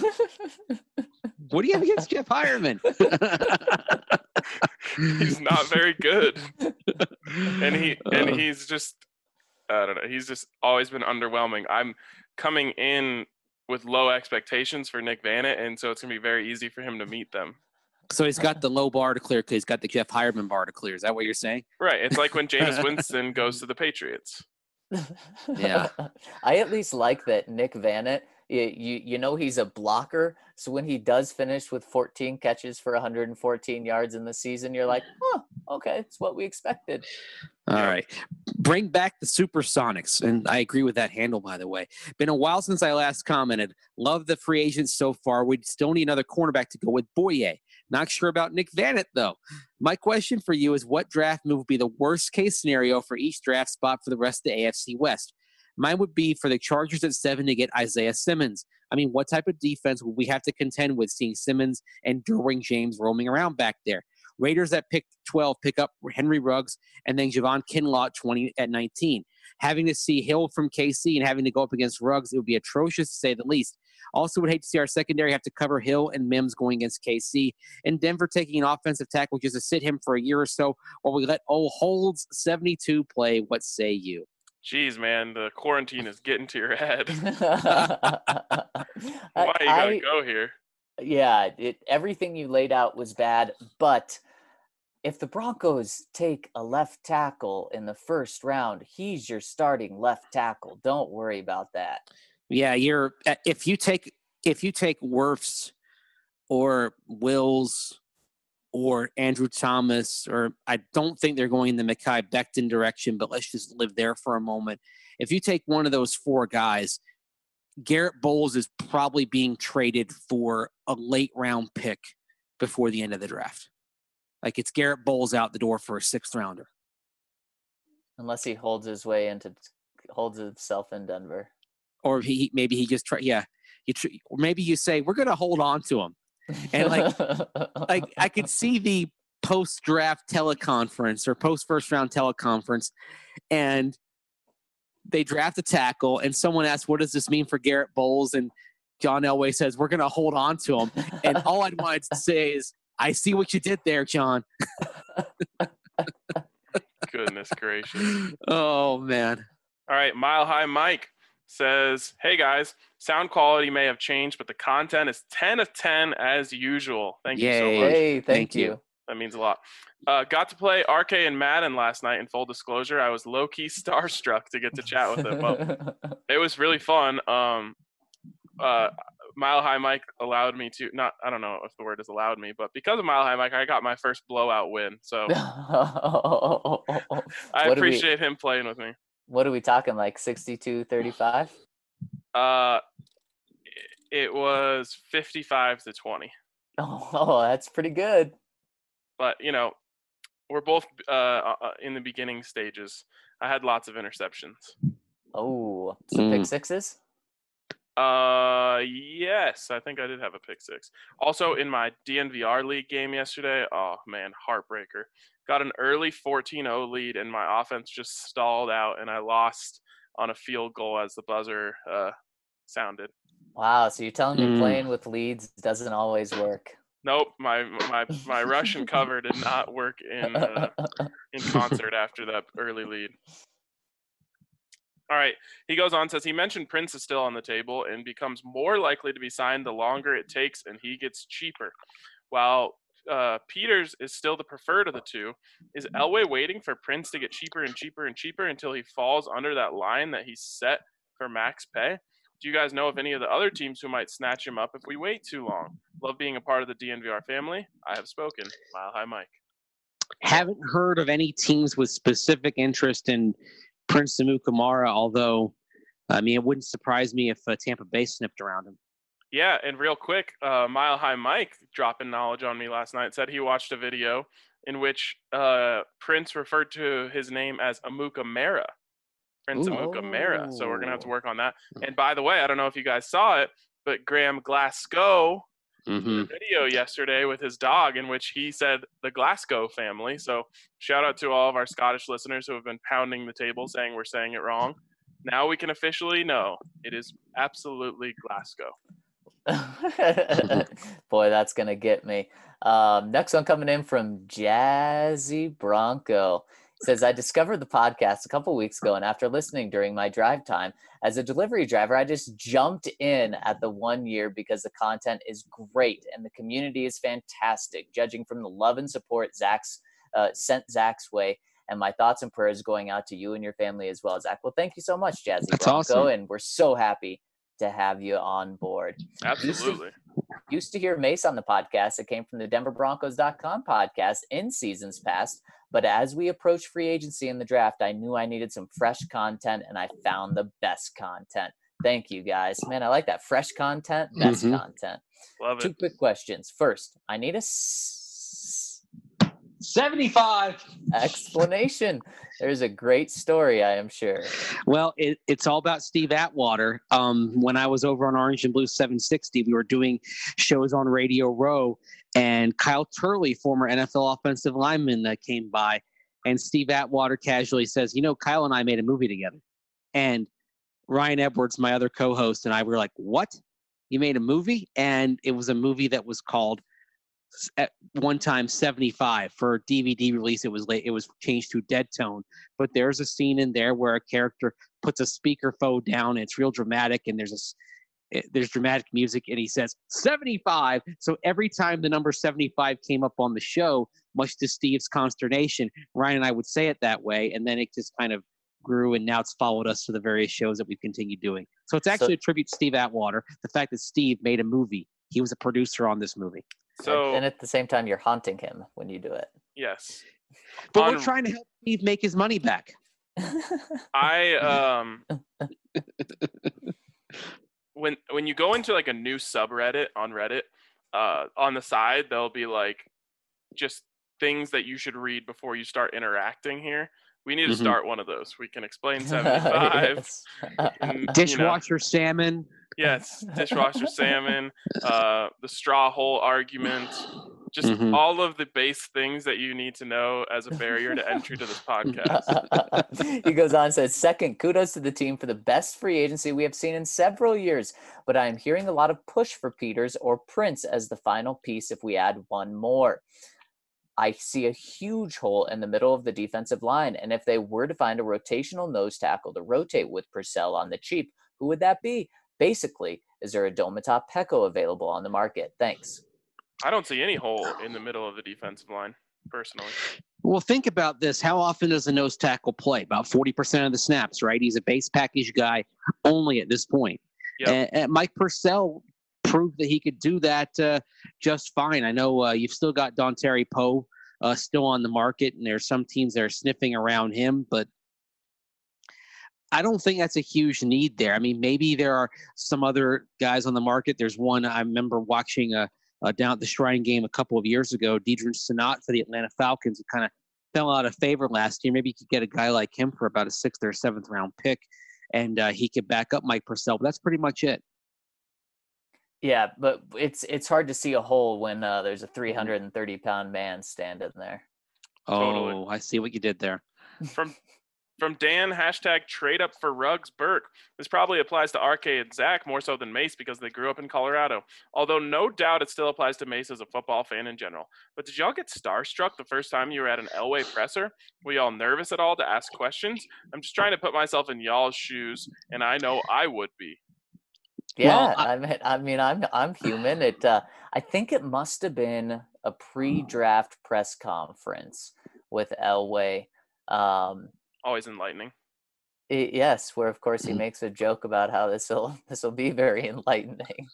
What do you have against Jeff Hireman? He's not very good, and he and he's just I don't know. He's just always been underwhelming. I'm coming in with low expectations for Nick Vannett, and so it's gonna be very easy for him to meet them. So he's got the low bar to clear because he's got the Jeff Hireman bar to clear. Is that what you're saying? Right. It's like when Jameis Winston goes to the Patriots. Yeah. I at least like that Nick Vannett, you, you, you know he's a blocker. So when he does finish with fourteen catches for one hundred fourteen yards in the season, you're like, oh, okay, it's what we expected. All right. Bring back the Supersonics. And I agree with that handle, by the way. Been a while since I last commented. Love the free agents so far. We still need another cornerback to go with Boye. Not sure about Nick Vannett, though. My question for you is what draft move would be the worst case scenario for each draft spot for the rest of the A F C West? Mine would be for the Chargers at seven to get Isaiah Simmons. I mean, what type of defense would we have to contend with seeing Simmons and Derwin James roaming around back there? Raiders at pick twelve pick up Henry Ruggs and then Javon Kinlaw at twenty at nineteen. Having to see Hill from K C and having to go up against Ruggs, it would be atrocious to say the least. Also would hate to see our secondary have to cover Hill and Mims going against K C. And Denver taking an offensive tackle just to sit him for a year or so while we let old Holds seventy-two play. What say you? Jeez, man, the quarantine is getting to your head. Why you gotta go here? Yeah, it, everything you laid out was bad, but if the Broncos take a left tackle in the first round, he's your starting left tackle. Don't worry about that. Yeah, you're if you take if you take Wirfs or Wills or Andrew Thomas, or I don't think they're going in the Mekhi Becton direction, but let's just live there for a moment. If you take one of those four guys, Garrett Bowles is probably being traded for a late round pick before the end of the draft. Like it's Garrett Bowles out the door for a sixth rounder. Unless he holds his way into holds himself in Denver. Or he maybe he just try yeah. You tr- or maybe you say we're going to hold on to him, and like like I could see the post draft teleconference or post first round teleconference, and they draft a tackle, and someone asks, "What does this mean for Garrett Bowles?" And John Elway says, "We're going to hold on to him." And all I'd wanted to say is, "I see what you did there, John." Goodness gracious. Oh man. All right, Mile High Mike says, "Hey guys, sound quality may have changed, but the content is ten of ten as usual. Thank you so Yay. much. Hey, thank, Thank you. you. That means a lot. Uh, got to play R K and Madden last night. In full disclosure, I was low-key starstruck to get to chat with him. Well, it was really fun. Um, uh, Mile High Mike allowed me to not. I don't know if the word is allowed me, but because of Mile High Mike, I got my first blowout win. So I What do we- appreciate him playing with me. What are we talking, like sixty-two thirty-five? Uh, it was fifty-five to twenty. Oh, that's pretty good. But you know, we're both uh, uh, in the beginning stages. I had lots of interceptions. Oh, some pick Mm. sixes? Uh, yes, I think I did have a pick six. Also, in my D N V R league game yesterday, oh man, heartbreaker. Got an early fourteen oh lead, and my offense just stalled out, and I lost on a field goal as the buzzer uh, sounded. Wow, so you're telling me Mm. playing with leads doesn't always work. Nope, my my my Russian cover did not work in uh, in concert after that early lead. All right, he goes on, says he mentioned Prince is still on the table and becomes more likely to be signed the longer it takes and he gets cheaper. While uh, Peters is still the preferred of the two, is Elway waiting for Prince to get cheaper and cheaper and cheaper until he falls under that line that he's set for max pay? Do you guys know of any of the other teams who might snatch him up if we wait too long? Love being a part of the D N V R family. I have spoken. Mile High Mike. Haven't heard of any teams with specific interest in Prince Amukamara, although, I mean, it wouldn't surprise me if uh, Tampa Bay snipped around him. Yeah, and real quick, uh, Mile High Mike dropping knowledge on me last night, said he watched a video in which uh, Prince referred to his name as Amukamara. Prince Ooh. Amukamara. So we're going to have to Oh. work on that. And by the way, I don't know if you guys saw it, but Graham Glasgow Mm-hmm. did a video yesterday with his dog in which he said the Glasgow family. So shout out to all of our Scottish listeners who have been pounding the table saying we're saying it wrong. Now we can officially know it is absolutely Glasgow. Boy, that's going to get me. Um, next one coming in from Jazzy Bronco. Says, I discovered the podcast a couple weeks ago, and after listening during my drive time as a delivery driver, I just jumped in at the one year because the content is great and the community is fantastic. Judging from the love and support Zach's uh, sent Zach's way, and my thoughts and prayers going out to you and your family as well, Zach. Well, thank you so much, Jazzy That's Bronco, awesome. and we're so happy to have you on board. Absolutely. Used to hear Mace on the podcast. It came from the Denver Broncos dot com podcast in seasons past. But as we approached free agency in the draft, I knew I needed some fresh content, and I found the best content. Thank you, guys. Man, I like that. Fresh content, best Mhm. content. Love Two it. quick questions. First, I need a s- seventy-five. explanation. There's a great story, I am sure. Well, it, it's all about Steve Atwater. Um, when I was over on Orange and Blue seven sixty, we were doing shows on Radio Row, and Kyle Turley, former N F L offensive lineman, that came by, and Steve Atwater casually says, you know, Kyle and I made a movie together. And Ryan Edwards, my other co-host, and I were like, what? You made a movie? And it was a movie that was called at one time seventy-five. For D V D release, it was late, it was changed to Dead Tone, but there's a scene in there where a character puts a speakerphone down, and it's real dramatic, and there's a it, there's dramatic music, and he says seventy-five. So every time the number seventy-five came up on the show, much to Steve's consternation, Ryan and I would say it that way, and then it just kind of grew, and now it's followed us to the various shows that we've continued doing. So it's actually So- a tribute to Steve Atwater, the fact that Steve made a movie. He was a producer on this movie. So and at the same time, you're haunting him when you do it. yes, But On- we're trying to help Steve make his money back. I um when when you go into like a new subreddit on Reddit, uh, on the side there'll be like just things that you should read before you start interacting here. We need to Mhm. start one of those. We can explain seventy-five. Yes. and, you know, Dishwasher salmon. yes, dishwasher salmon, uh, the straw hole argument, Just Mhm. all of the base things that you need to know as a barrier to entry to this podcast. He goes on and says, second, kudos to the team for the best free agency we have seen in several years, but I am hearing a lot of push for Peters or Prince as the final piece if we add one more. I see a huge hole in the middle of the defensive line, and if they were to find a rotational nose tackle to rotate with Purcell on the cheap, who would that be? Basically, is there a Domata Peko available on the market? Thanks. I don't see any hole in the middle of the defensive line, personally. Well, think about this. How often does a nose tackle play? About forty percent of the snaps, right? He's a base package guy only at this point. Yep. And, and Mike Purcell proved that he could do that uh, just fine. I know uh, you've still got Dontari Poe uh, still on the market, and there's some teams that are sniffing around him, but I don't think that's a huge need there. I mean, maybe there are some other guys on the market. There's one I remember watching a, a down at the Shrine game a couple of years ago, Deidre Sanat for the Atlanta Falcons, who kind of fell out of favor last year. Maybe you could get a guy like him for about a sixth or seventh round pick, and uh, he could back up Mike Purcell. But that's pretty much it. Yeah, but it's it's hard to see a hole when uh, there's a three hundred thirty pound man standing there. Totally. Oh, I see what you did there. From from Dan, hashtag trade up for Ruggs Burke. This probably applies to R K and Zach more so than Mace because they grew up in Colorado. Although no doubt it still applies to Mace as a football fan in general. But did y'all get starstruck the first time you were at an Elway presser? Were y'all nervous at all to ask questions? I'm just trying to put myself in y'all's shoes, and I know I would be. Yeah, Well, I- I, mean, I mean, I'm I'm human. It uh, I think it must have been a pre-draft press conference with Elway. Um, Always enlightening. it, yes, where of course he makes a joke about how this will this will be very enlightening.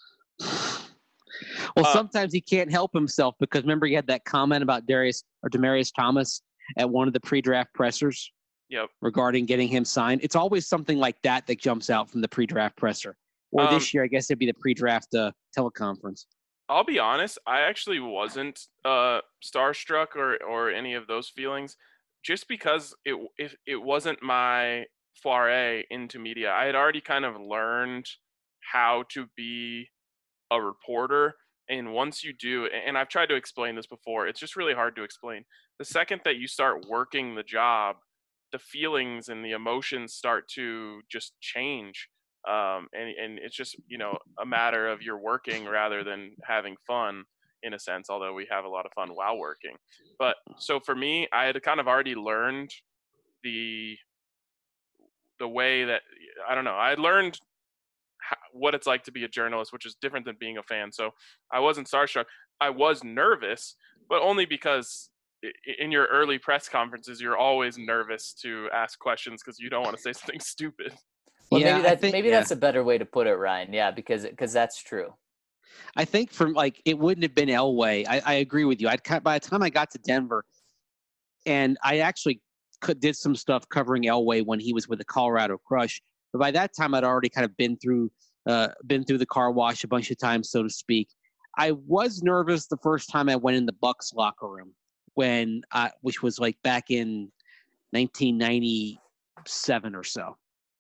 Well, Uh, sometimes he can't help himself because remember he had that comment about Darius or Demarius Thomas at one of the pre-draft pressers Yep. regarding getting him signed. It's always something like that that jumps out from the pre-draft presser. Or Um, this year, I guess it'd be the pre-draft uh, teleconference. I'll be honest, I actually wasn't uh, starstruck or, or any of those feelings just because it, if it wasn't my foray into media. I had already kind of learned how to be a reporter. And once you do, and I've tried to explain this before, it's just really hard to explain. The second that you start working the job, the feelings and the emotions start to just change. Um, and, and it's just, you know, a matter of you're working rather than having fun in a sense, although we have a lot of fun while working. But so for me, I had kind of already learned the, the way that, I don't know, I had learned how, what it's like to be a journalist, which is different than being a fan. So I wasn't starstruck. I was nervous, but only because in your early press conferences, you're always nervous to ask questions because you don't want to say something stupid. Well, Yeah, maybe I that think- maybe yeah. that's a better way to put it, Ryan. Yeah, because because that's true. I think from like it wouldn't have been Elway. I, I agree with you. I'd cut by the time I got to Denver, and I actually could, did some stuff covering Elway when he was with the Colorado Crush. But by that time, I'd already kind of been through uh, been through the car wash a bunch of times, so to speak. I was nervous the first time I went in the Bucks locker room when, I, which was like back in nineteen ninety-seven or so,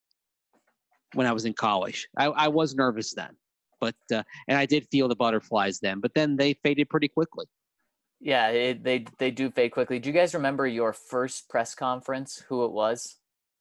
when I was in college. I, I was nervous then, but uh, and I did feel the butterflies then, but then they faded pretty quickly. Yeah, it, they they do fade quickly. Do you guys remember your first press conference? Who it was?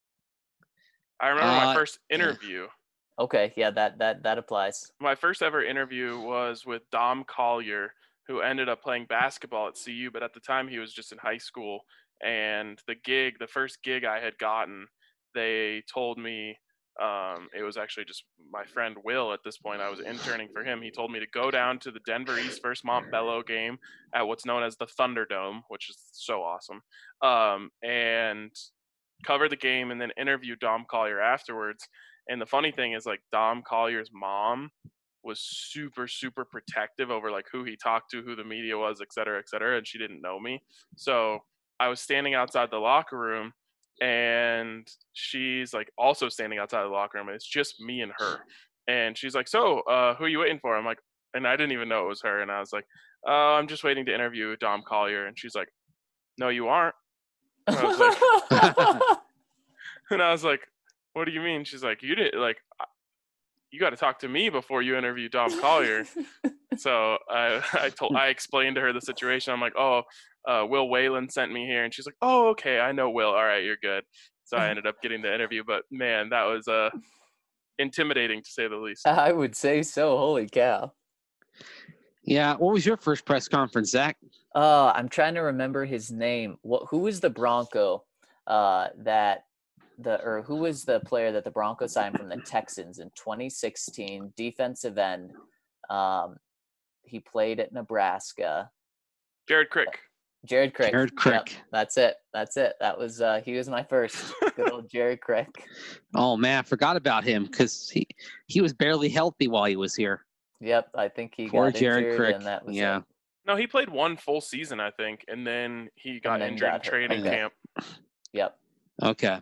I remember my Uh, first interview. Okay, yeah, that that that applies. My first ever interview was with Dom Collier, who ended up playing basketball at C U, but at the time he was just in high school. And the gig, the first gig I had gotten, they told me, um, it was actually just my friend Will at this point. I was interning for him. He told me to go down to the Denver East versus Montbello game at what's known as the Thunderdome, which is so awesome, um, and cover the game and then interview Dom Collier afterwards. And the funny thing is, like, Dom Collier's mom was super, super protective over, like, who he talked to, who the media was, et cetera, et cetera, and she didn't know me. So I was standing outside the locker room, and she's, like, also standing outside the locker room, and it's just me and her. And she's like, so, uh, who are you waiting for? I'm like, and I didn't even know it was her. And I was like, oh, I'm just waiting to interview Dom Collier. And she's like, no, you aren't. And I was like, and I was like, what do you mean? She's like, you didn't, like, you got to talk to me before you interview Dom Collier. So I, I told, I explained to her the situation. I'm like, oh, uh, Will Whalen sent me here, and she's like, oh, okay, I know Will. All right, you're good. So I ended up getting the interview, but man, that was uh, intimidating to say the least. I would say so. Holy cow. Yeah. What was your first press conference, Zach? Uh, I'm trying to remember his name. What? Who was the Bronco uh, that the or who was the player that the Broncos signed from the Texans in twenty sixteen? Defensive end. Um, he played at Nebraska. Jared Crick. Jared Crick. Jared Crick. Yep, that's it. That's it. That was uh, he was my first. Good old Jared Crick. Oh man, I forgot about him because he he was barely healthy while he was here. Yep, I think he Poor got Jared injured, Crick. and that was Yeah. it. No, he played one full season, I think, and then he got then injured got in hurt. training Okay. camp. Yep. Okay.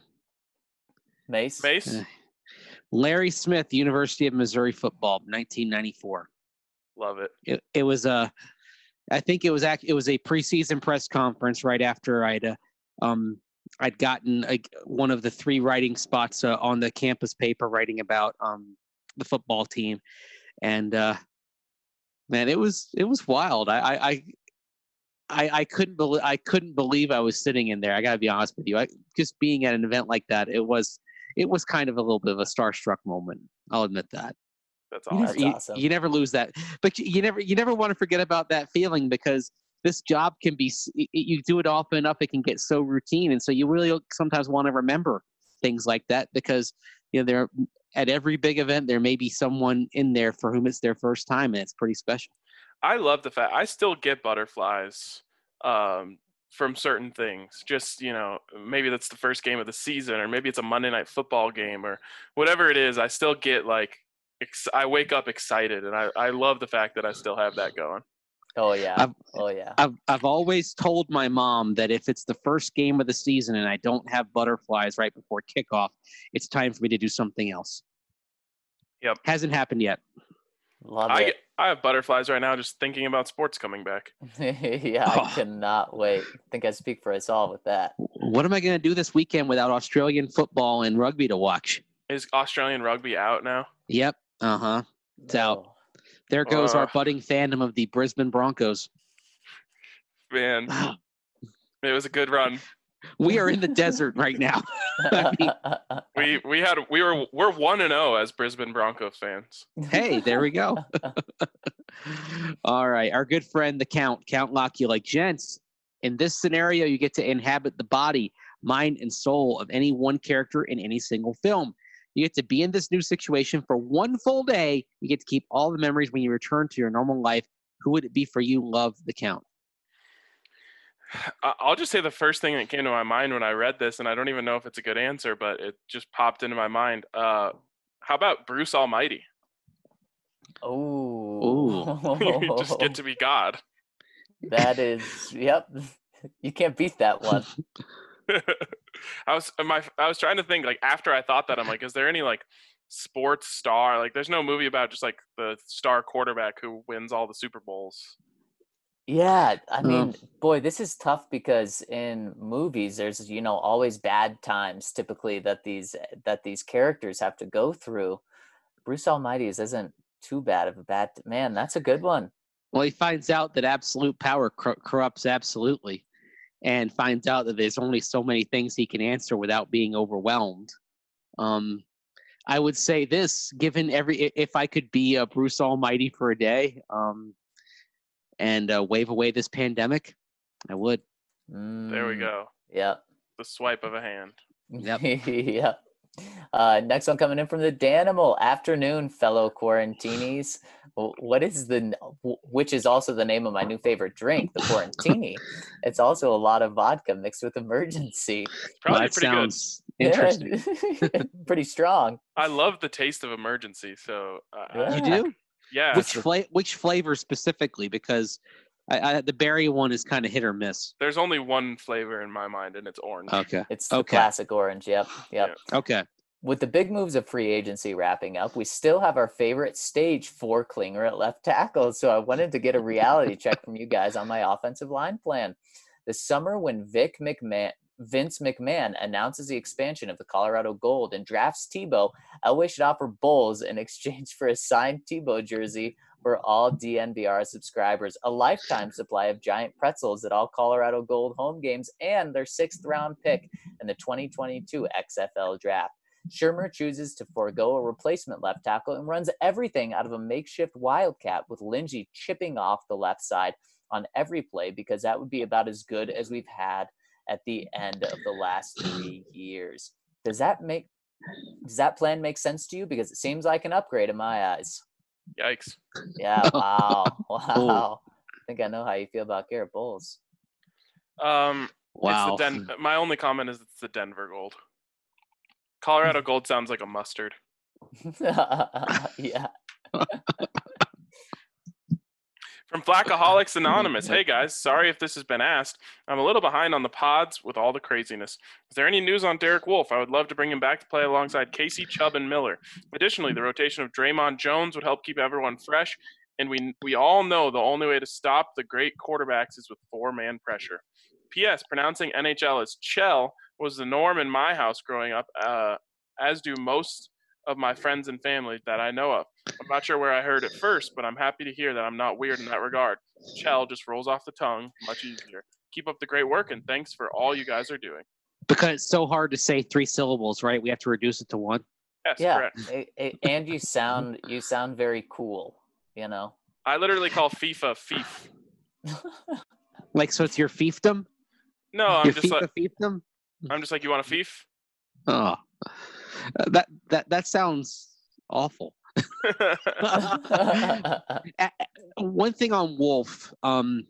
Mace. Mace? Uh, Larry Smith, University of Missouri football, nineteen ninety-four. Love it. It, it was a, I think it was act, it was a preseason press conference right after I'd, uh, um, I'd gotten a, one of the three writing spots uh, on the campus paper writing about um the football team, and uh, man, it was it was wild. I I. I I, I couldn't believe I couldn't believe I was sitting in there. I gotta be honest with you. I, just being at an event like that, it was it was kind of a little bit of a starstruck moment. I'll admit that. That's You never, awesome. That's you, awesome. you never lose that, but you, you never you never want to forget about that feeling because this job can be s- y- you do it often enough, it can get so routine, and so you really sometimes want to remember things like that because you know there at every big event there may be someone in there for whom it's their first time, and it's pretty special. I love the fact I still get butterflies um, from certain things. Just, you know, maybe that's the first game of the season, or maybe it's a Monday night football game, or whatever it is. I still get like, ex- I wake up excited, and I, I love the fact that I still have that going. Oh yeah. I've- Oh yeah. I've I've always told my mom that if it's the first game of the season and I don't have butterflies right before kickoff, it's time for me to do something else. Yep. Hasn't happened yet. Love I it. get, I have butterflies right now just thinking about sports coming back. Yeah, I Oh. cannot wait. I think I speak for us all with that. What am I going to do this weekend without Australian football and rugby to watch? Is Australian rugby out now? Yep. Uh huh. It's out. Oh. There goes our Ugh. budding fandom of the Brisbane Broncos. Man, it was a good run. We are in the desert right now. I mean, We we had we were we're one and zero as Brisbane Broncos fans. hey, there we go. All right. Our good friend, the Count, Count Locke, like, gents, in this scenario, you get to inhabit the body, mind, and soul of any one character in any single film. You get to be in this new situation for one full day. You get to keep all the memories when you return to your normal life. Who would it be for you? Love, the Count. I- I'll just say the first thing that came to my mind when I read this, and I don't even know if it's a good answer, but it just popped into my mind. Uh, how about Bruce Almighty? Oh. You just get to be God. That is, yep. You can't beat that one. I was my I was trying to think like after I thought that I'm like, is there any like sports star? Like, there's no movie about just like the star quarterback who wins all the Super Bowls. Yeah, I Oh. mean, boy, this is tough because in movies there's, you know, always bad times typically that these that these characters have to go through. Bruce Almighty's isn't too bad of a bad man. That's a good one. Well, he finds out that absolute power cor- corrupts absolutely, and finds out that there's only so many things he can answer without being overwhelmed. Um, I would say this: given every, i- if I could be a Bruce Almighty for a day, um, and uh, wave away this pandemic, I would. There we Mm, go. Yep. The swipe of a hand. Yep. Yep. Uh, next one coming in from the Danimal. Afternoon, fellow quarantinis. Wh- What is the, n- wh- which is also the name of my new favorite drink, the Quarantini. It's also a lot of vodka mixed with emergency. Probably that pretty sounds interesting. Yeah, pretty strong. good. I love the taste of emergency. So uh, Yeah. You do? yeah. Which fla- which flavor specifically? Because I, I, the berry one is kind of hit or miss. There's only one flavor in my mind, and it's orange. Okay. It's the Okay. classic orange. Yep. Yep. Okay. With the big moves of free agency wrapping up, we still have our favorite stage for Klinger at left tackle. So I wanted to get a reality check from you guys on my offensive line plan. This summer, when Vic McMahon, Vince McMahon announces the expansion of the Colorado Gold and drafts Tebow, Elway should offer Bulls in exchange for a signed Tebow jersey for all D N V R subscribers, a lifetime supply of giant pretzels at all Colorado Gold home games, and their sixth round pick in the twenty twenty-two X F L draft. Shermer chooses to forego a replacement left tackle and runs everything out of a makeshift wildcat, with Lindsey chipping off the left side on every play, because that would be about as good as we've had at the end of the last three years. Does that make does that plan make sense to you? Because it seems like an upgrade in my eyes. Yikes. Yeah, wow. Wow. I think I know how you feel about Garrett Bowles. Um, Wow. It's the Den- my only comment is it's the Denver Gold. Colorado Gold sounds like a mustard. Yeah. From Flackaholics Anonymous. Hey guys, sorry if this has been asked. I'm a little behind on the pods with all the craziness. Is there any news on Derek Wolfe? I would love to bring him back to play alongside Casey, Chubb, and Miller. Additionally, the rotation of Draymond Jones would help keep everyone fresh, and we we all know the only way to stop the great quarterbacks is with four-man pressure. P S. Pronouncing N H L as Chell was the norm in my house growing up, uh, as do most of my friends and family that I know of. I'm not sure where I heard it first, but I'm happy to hear that I'm not weird in that regard. Chell just rolls off the tongue, much easier. Keep up the great work, and thanks for all you guys are doing. Because it's so hard to say three syllables, right? We have to reduce it to one. Yes, Yeah. correct. It, it, and you sound you sound very cool, you know. I literally call FIFA Fief. Like, so it's your fiefdom? No, I'm your just FIFA like fiefdom? I'm just like, you want a Fief? Oh, that that that sounds awful. One thing on Wolf, um,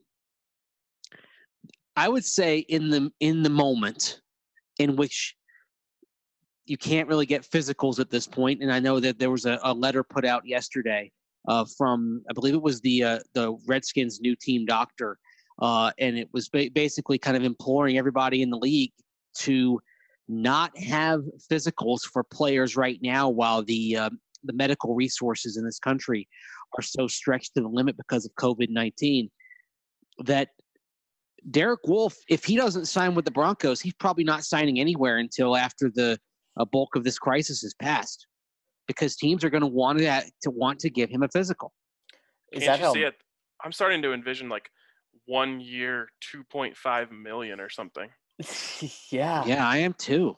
I would say in the in the moment in which you can't really get physicals at this point, and I know that there was a, a letter put out yesterday uh, from, I believe it was the uh, the Redskins' new team doctor, uh, and it was ba- basically kind of imploring everybody in the league to not have physicals for players right now while the uh, the medical resources in this country are so stretched to the limit because of COVID nineteen, that Derek Wolfe, if he doesn't sign with the Broncos, he's probably not signing anywhere until after the uh, bulk of this crisis is passed, because teams are going to want to to want to give him a physical. Is Can't that you how? see it? I'm starting to envision like one year, two point five million or something. Yeah. Yeah, I am too.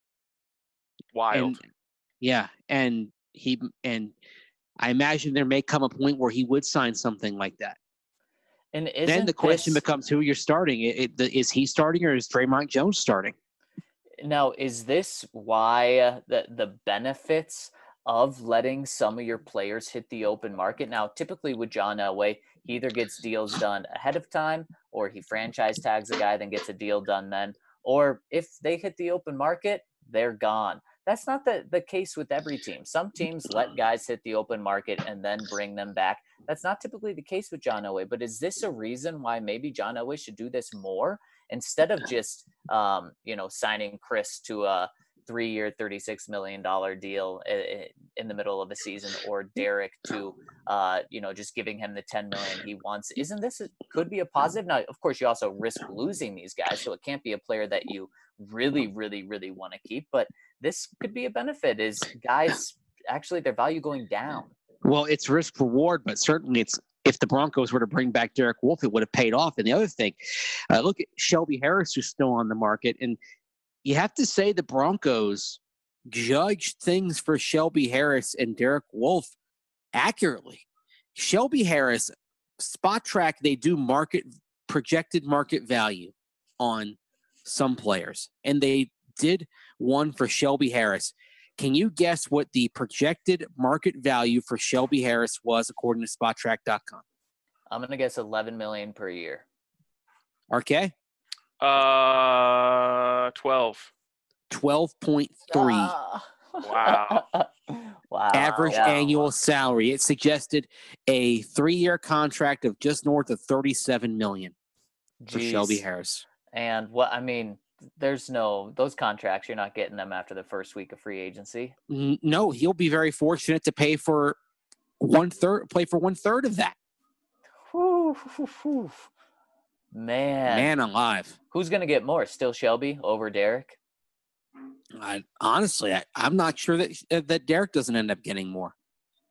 Wild. And, yeah, and he and I imagine there may come a point where he would sign something like that. And isn't Then the question this, becomes who you're starting. It, it, the, is he starting or is Draymond Jones starting? now, is this why uh, the the benefits of letting some of your players hit the open market? Now, typically with John Elway, he either gets deals done ahead of time, or he franchise tags a guy, then gets a deal done then. Or if they hit the open market, they're gone. That's not the, the case with every team. Some teams let guys hit the open market and then bring them back. That's not typically the case with John Elway. But is this a reason why maybe John Elway should do this more, instead of just, um, you know, signing Chris to a three-year, thirty-six million dollars deal in the middle of a season, or Derek to, uh, you know, just giving him the ten million dollars he wants? Isn't this a, could be a positive? Now, of course, you also risk losing these guys, so it can't be a player that you really, really, really want to keep. But this could be a benefit, is guys actually their value going down. Well, it's risk reward, but certainly it's, if the Broncos were to bring back Derek Wolfe, it would have paid off. And the other thing, uh, look at Shelby Harris, who's still on the market. And you have to say the Broncos judged things for Shelby Harris and Derek Wolfe accurately. Shelby Harris, Spot Track, they do market projected market value on some players, and they did one for Shelby Harris. Can you guess what the projected market value for Shelby Harris was according to Spot Track dot com? I'm gonna guess eleven million dollars per year. R K? Uh, twelve. twelve point three. Ah. Wow. Wow. Average Yeah. annual salary. It suggested a three-year contract of just north of thirty-seven million dollars for Jeez. Shelby Harris. And what I mean, there's no those contracts. You're not getting them after the first week of free agency. N- No, he'll be very fortunate to pay for one third, play for one third of that. Whew, whew, whew. Man, Man alive. who's gonna get more? Still Shelby over Derek? I, honestly, I, I'm not sure that uh, that Derek doesn't end up getting more.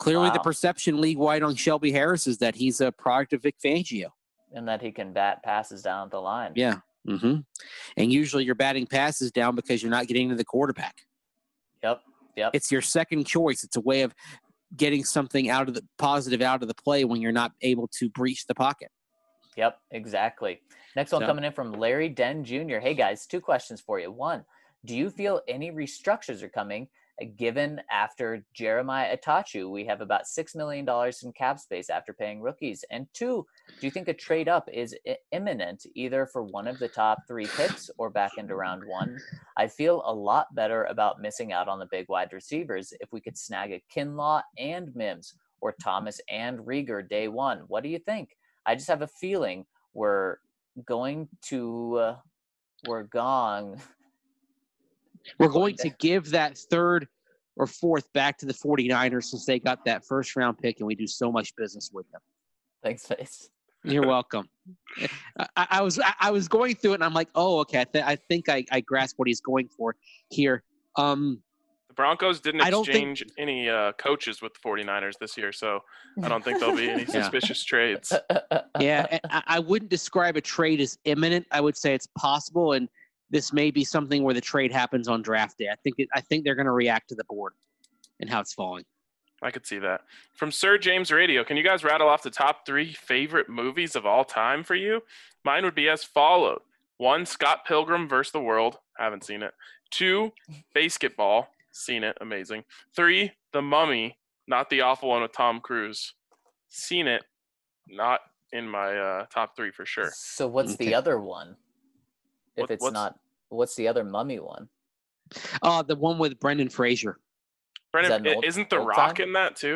Clearly, the Wow. perception league-wide on Shelby Harris is that he's a product of Vic Fangio. And that he can bat passes down the line. Yeah. Mm-hmm. And usually you're batting passes down because you're not getting to the quarterback. Yep. Yep. It's your second choice. It's a way of getting something out of the positive out of the play when you're not able to breach the pocket. Yep, exactly. Next one So- coming in from Larry Den Junior Hey guys, two questions for you. One, do you feel any restructures are coming? uh, Given after Jeremiah Atachu, we have about six million dollars in cap space after paying rookies. And two, do you think a trade up is i- imminent, either for one of the top three picks or back into round one? I feel a lot better about missing out on the big wide receivers if we could snag a Kinlaw and Mims or Thomas and Rieger day one. What do you think? I just have a feeling we're going to, uh, we're gone. We're going to give that third or fourth back to the 49ers since they got that first round pick and we do so much business with them. Thanks, Face. You're welcome. I, I was I, I was going through it and I'm like, oh, okay. I, th- I think I, I grasp what he's going for here. Um, The Broncos didn't I don't think- exchange any uh, coaches with the 49ers this year, so I don't think there'll be any Yeah. suspicious trades. yeah, and I, I wouldn't describe a trade as imminent. I would say it's possible, and this may be something where the trade happens on draft day. I think it, I think they're going to react to the board and how it's falling. I could see that. From Sir James Radio, can you guys rattle off the top three favorite movies of all time for you? Mine would be as followed. One, Scott Pilgrim versus the World. Haven't seen it. Two, Basketball. Seen it. Amazing. Three, The Mummy. Not the awful one with Tom Cruise. Seen it. Not in my uh, top three for sure. So what's Okay. the other one? If What- it's what's- not, what's the other mummy one? Uh, the one with Brendan Fraser. Brendan, that an old- isn't The old Rock time? in that too?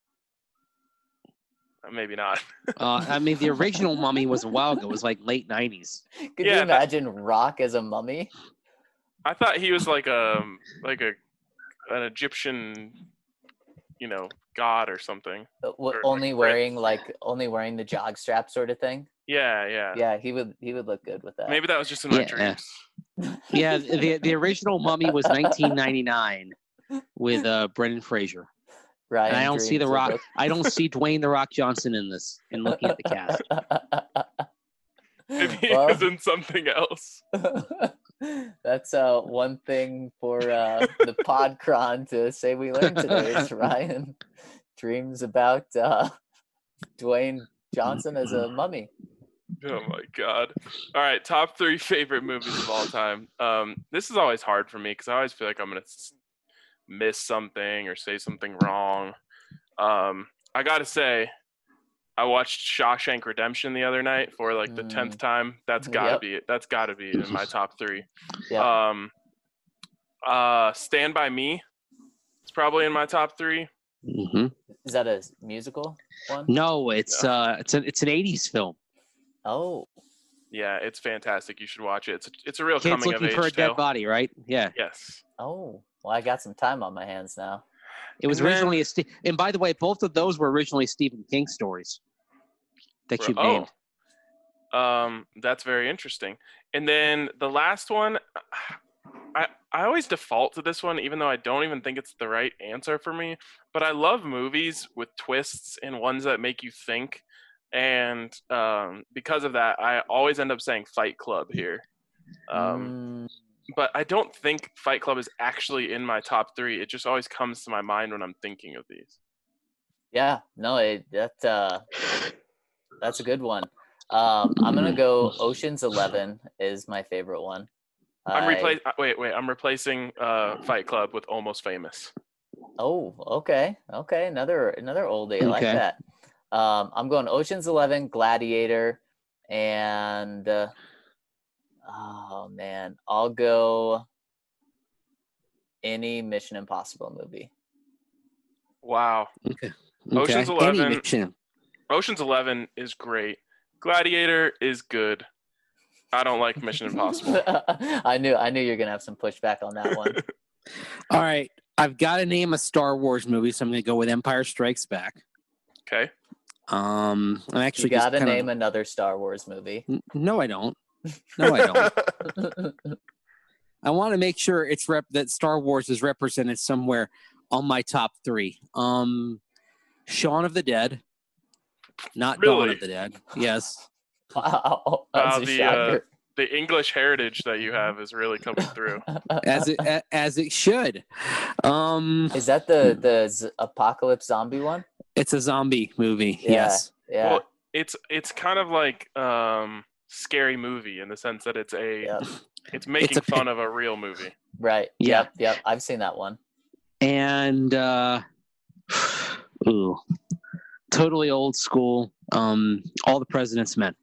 Uh, Maybe not. Uh, I mean, the original Mummy was a while ago. It was like late nineties. Could Yeah, you that- imagine Rock as a mummy? I thought he was like a like a an Egyptian, you know, god or something. Uh, w- Or, like, only Prince. wearing like only wearing the jog strap sort of thing. Yeah, yeah. Yeah, he would he would look good with that. Maybe that was just in my Yeah. dreams. Yeah, the the original Mummy was nineteen ninety-nine with uh, Brendan Fraser. Ryan And I don't see the dreams of Rock. I don't see Dwayne the Rock Johnson in this. In looking at the cast, Maybe Well- he was in something else. That's uh one thing for uh the Podcron to say we learned today is Ryan dreams about uh Dwayne Johnson as a mummy. Oh my god! All right, top three favorite movies of all time. Um, this is always hard for me because I always feel like I'm gonna s- miss something or say something wrong. Um, I gotta say, I watched Shawshank Redemption the other night for like the tenth Mm. time. That's gotta Yep. be it. That's gotta be in my top three. Yeah. Um, uh, Stand by Me. It's probably in my top three. hmm Is that a musical one? no, it's uh, it's an it's an eighties film. Oh, Yeah, it's fantastic. You should watch it. It's a, it's a real Kids coming of looking age for a tale. dead body, right? Yeah, Yes. oh. Well, I got some time on my hands now. it was And then- originally a. Ste- and by the way, both of those were originally Stephen King stories that you oh. named. Um, that's very interesting. And then the last one, I I always default to this one, even though I don't even think it's the right answer for me. But I love movies with twists and ones that make you think. And um, because of that, I always end up saying Fight Club here. Um, Mm, but I don't think Fight Club is actually in my top three. It just always comes to my mind when I'm thinking of these. yeah, no, it, that uh, that's a good one. Um, I'm gonna go Ocean's Eleven is my favorite one. I'm I- replacing. Wait, wait. I'm replacing uh, Fight Club with Almost Famous. Oh, okay, okay, another another oldie. I like Okay. that. Um, I'm going Ocean's Eleven, Gladiator, and uh, oh man, I'll go any Mission Impossible movie. Wow. Okay. Ocean's okay. Any Eleven. mission. Ocean's Eleven is great. Gladiator is good. I don't like Mission Impossible. I knew I knew you were gonna have some pushback on that one. All right, I've got to name a Star Wars movie, so I'm going to go with Empire Strikes Back. Okay. Um, I'm You actually just gotta kinda- name another Star Wars movie. N- No, I don't. No, I don't. I want to make sure it's rep that Star Wars is represented somewhere on my top three. Um, Shaun of the Dead, not Dawn Really? of the Dead. Yes. Wow, that's Wow, a the uh, shocker. the English heritage that you have is really coming through. As it a- as it should. Um, Is that the the z- apocalypse zombie one? it's a zombie movie. Yeah. Yes. Yeah. Well, it's it's kind of like um, Scary Movie in the sense that it's a Yep. it's making a pi- fun of a real movie. Right. Yeah. Yep. Yep. I've seen that one. And uh, ooh, totally old school. Um, All the President's Men.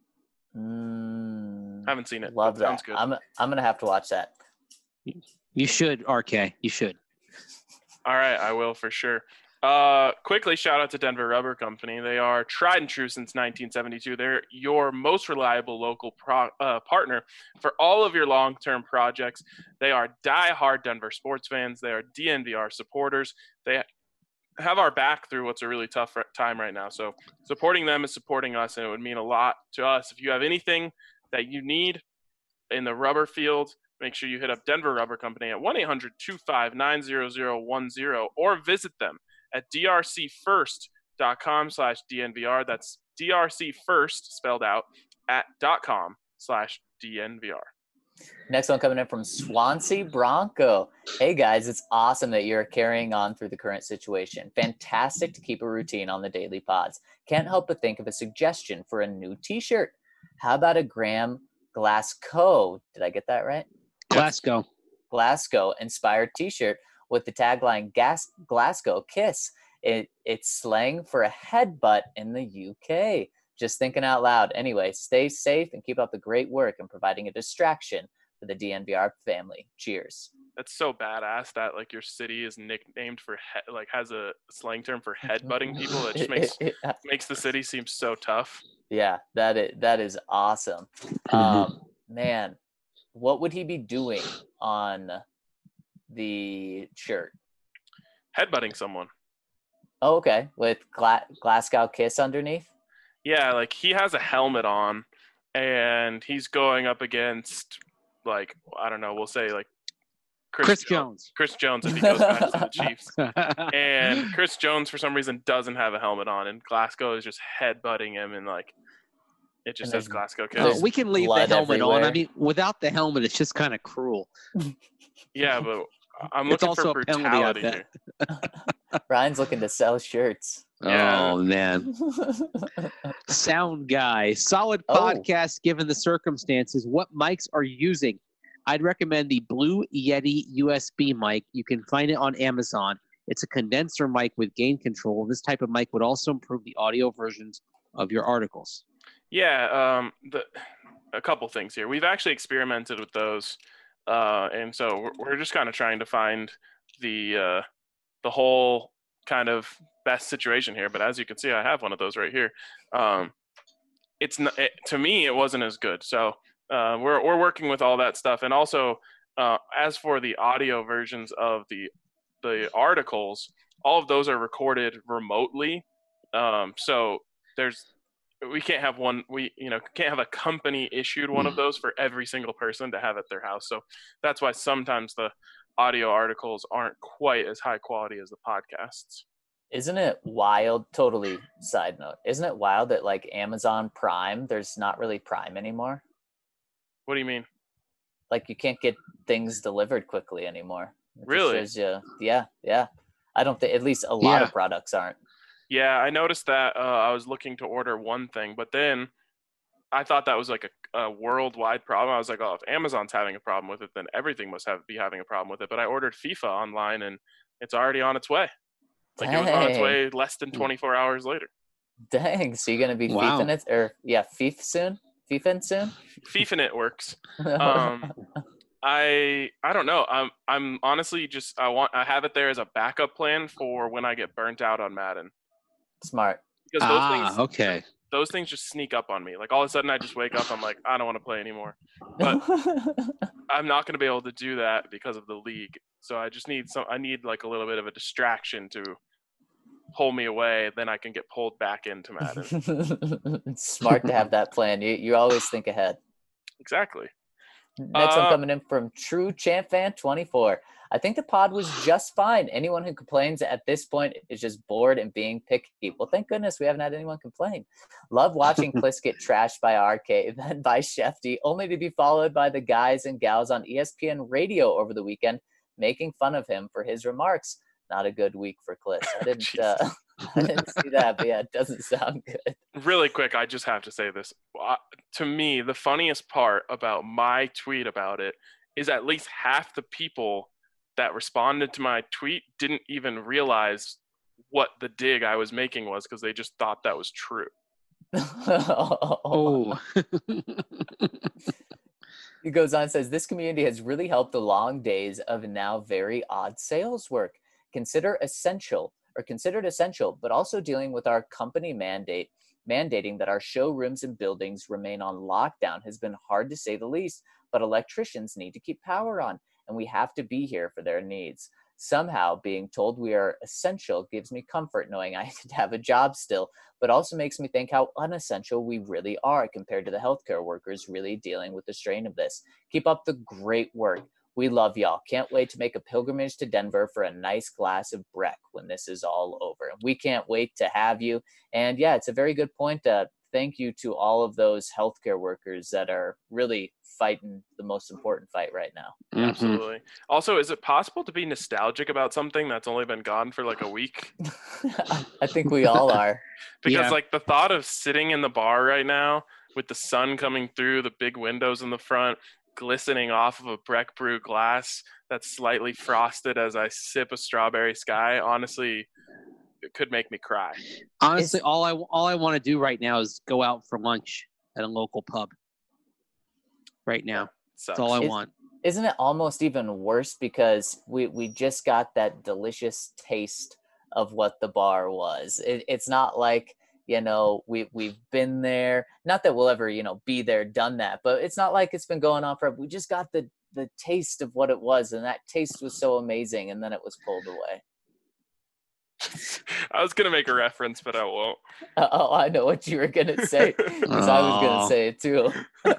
Mm, Haven't seen it. love but sounds that. good. I'm I'm gonna have to watch that. You should, R K. You should. All right, I will for sure. Uh, quickly, shout out to Denver Rubber Company. They are tried and true since nineteen seventy-two. They're your most reliable local pro, uh, partner for all of your long-term projects. They are die-hard Denver sports fans. They are D N V R supporters. They have our back through what's a really tough time right now. So supporting them is supporting us, and it would mean a lot to us. If you have anything that you need in the rubber field, make sure you hit up Denver Rubber Company at one eight hundred two five nine zero zero one zero or visit them at drcfirst.com slash DNVR. That's drcfirst spelled out at dot com slash DNVR. Next one coming in from Swansea Bronco. Hey guys, it's awesome that you're carrying on through the current situation. Fantastic to keep a routine on the daily pods. Can't help but think of a suggestion for a new t-shirt. How about a Graham Glasgow? Did I get that right? Glasgow. Glasgow inspired t-shirt with the tagline Gas- Glasgow Kiss. It, it's slang for a headbutt in the U K. Just thinking out loud. Anyway, stay safe and keep up the great work and providing a distraction for the D N V R family. Cheers. That's so badass that like your city is nicknamed for he- like has a slang term for headbutting people. That just makes makes the city seem so tough. Yeah, that is that is awesome. Um, man, what would he be doing on the shirt? Headbutting someone. Oh, okay, with Gla- Glasgow Kiss underneath. Yeah, like he has a helmet on, and he's going up against like I don't know. We'll say like Chris, Chris Jo- Jones. Chris Jones if he goes back to the Chiefs. And Chris Jones for some reason doesn't have a helmet on, and Glasgow is just headbutting him, and like it just And says there's- Glasgow Oh, Kiss. there's we can leave the blood helmet on. I everywhere. mean, without the helmet, it's just kind of cruel. Yeah, but I'm It's looking also for a penalty, I brutality bet. here. Ryan's looking to sell shirts. Yeah. Oh man, sound guy, solid Oh. podcast given the circumstances. What mics are you using? I'd recommend the Blue Yeti U S B mic. You can find it on Amazon. It's a condenser mic with gain control. This type of mic would also improve the audio versions of your articles. Yeah, um, the, a couple things here. We've actually experimented with those, uh, and so we're, we're just kind of trying to find the uh, the whole kind of best situation here. But as you can see, I have one of those right here. Um, it's not, it, to me, it wasn't as good. So uh, we're we're working with all that stuff, and also uh, as for the audio versions of the the articles, all of those are recorded remotely. Um, so there's we can't have one we you know can't have a company issued one of those for every single person to have at their house. So that's why sometimes the audio articles aren't quite as high quality as the podcasts. Isn't it wild? Totally side note. Isn't it wild that like Amazon Prime, there's not really Prime anymore? What do you mean? Like you can't get things delivered quickly anymore. It just Really? shows you- yeah, yeah. I don't think at least a lot Yeah. of products aren't. Yeah, I noticed that. uh, I was looking to order one thing, but then I thought that was like a, a worldwide problem. I was like, oh, if Amazon's having a problem with it, then everything must have be having a problem with it. But I ordered FIFA online, and it's already on its way. Like it was on its Dang. way less than twenty-four hours later. Dang. So you're gonna be Wow. FIFAing it or yeah, FIFA soon? FIFAing soon? FIFA it works. Um, I I don't know. I'm I'm honestly just I want I have it there as a backup plan for when I get burnt out on Madden, Smart. because those Ah, things okay. those things just sneak up on me. Like all of a sudden I just wake up, I'm like, I don't want to play anymore. But I'm not going to be able to do that because of the league. So I just need some I need like a little bit of a distraction to pull me away, then I can get pulled back into Madden. It's smart to have that plan. You you always think ahead. Exactly. Next one Uh, coming in from True Champ Fan twenty-four. I think the pod was just fine. Anyone who complains at this point is just bored and being picky. Well, thank goodness we haven't had anyone complain. Love watching Kliss get trashed by R K, then by Shefty, only to be followed by the guys and gals on E S P N radio over the weekend, making fun of him for his remarks. Not a good week for Kliss. I didn't, uh, I didn't see that, but yeah, it doesn't sound good. Really quick, I just have to say this. Uh, to me, the funniest part about my tweet about it is at least half the people that responded to my tweet didn't even realize what the dig I was making was because they just thought that was true. Oh. He goes on and says, this community has really helped the long days of now very odd sales work. Consider essential or considered essential, but also dealing with our company mandate, mandating that our showrooms and buildings remain on lockdown has been hard to say the least, but electricians need to keep power on and we have to be here for their needs. Somehow being told we are essential gives me comfort knowing I could have a job still, but also makes me think how unessential we really are compared to the healthcare workers really dealing with the strain of this. Keep up the great work. We love y'all. Can't wait to make a pilgrimage to Denver for a nice glass of Breck when this is all over. We can't wait to have you. And yeah, it's a very good point. Uh, thank you to all of those healthcare workers that are really fighting the most important fight right now. Mm-hmm. Absolutely. Also, is it possible to be nostalgic about something that's only been gone for like a week? I think we all are. Because Yeah. like the thought of sitting in the bar right now with the sun coming through the big windows in the front, glistening off of a Breck Brew glass that's slightly frosted as I sip a strawberry sky, honestly, it could make me cry. Honestly, It's- all I all I want to do right now is go out for lunch at a local pub. Right now, Sucks. that's all I Is- want. Isn't it almost even worse because we, we just got that delicious taste of what the bar was. It, it's not like, you know, we, we've been there. Not that we'll ever, you know, be there, done that, but it's not like it's been going on forever. We just got the, the taste of what it was, and that taste was so amazing, and then it was pulled away. I was gonna make a reference, but I won't. Oh, I know what you were going to say, because I was going Aw. to say it too.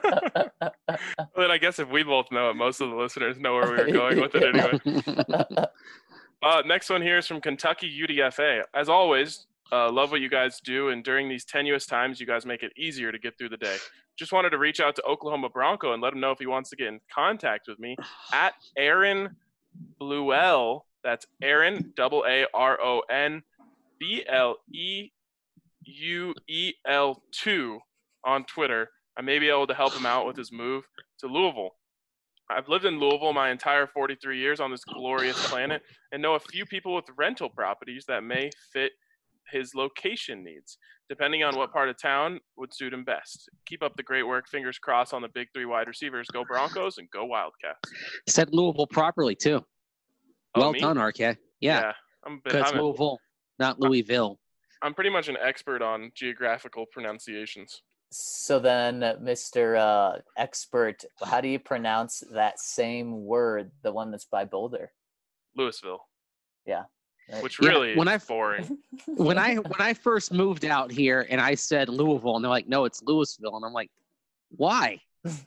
Well, then I guess if we both know it, most of the listeners know where we were going with it anyway. Uh, next one here is from Kentucky U D F A. As always, uh, love what you guys do, and during these tenuous times, you guys make it easier to get through the day. Just wanted to reach out to Oklahoma Bronco and let him know if he wants to get in contact with me at Aaron Bluell. That's Aaron, double A R O N, B L E U E L two on Twitter. I may be able to help him out with his move to Louisville. I've lived in Louisville my entire forty-three years on this glorious planet and know a few people with rental properties that may fit his location needs, depending on what part of town would suit him best. Keep up the great work. Fingers crossed on the big three wide receivers. Go Broncos and go Wildcats. Said Louisville properly too. Oh, Well me? done, R K. Yeah, I'm, a bit, because I'm, a, Louisville, not Louisville. I'm pretty much an expert on geographical pronunciations. So then, uh, Mister Uh, expert, how do you pronounce that same word, the one that's by Boulder? Louisville, Right. which Yeah, really when is I- boring. When I when I first moved out here and I said Louisville, and they're like, "No, it's Louisville," and I'm like, "Why?"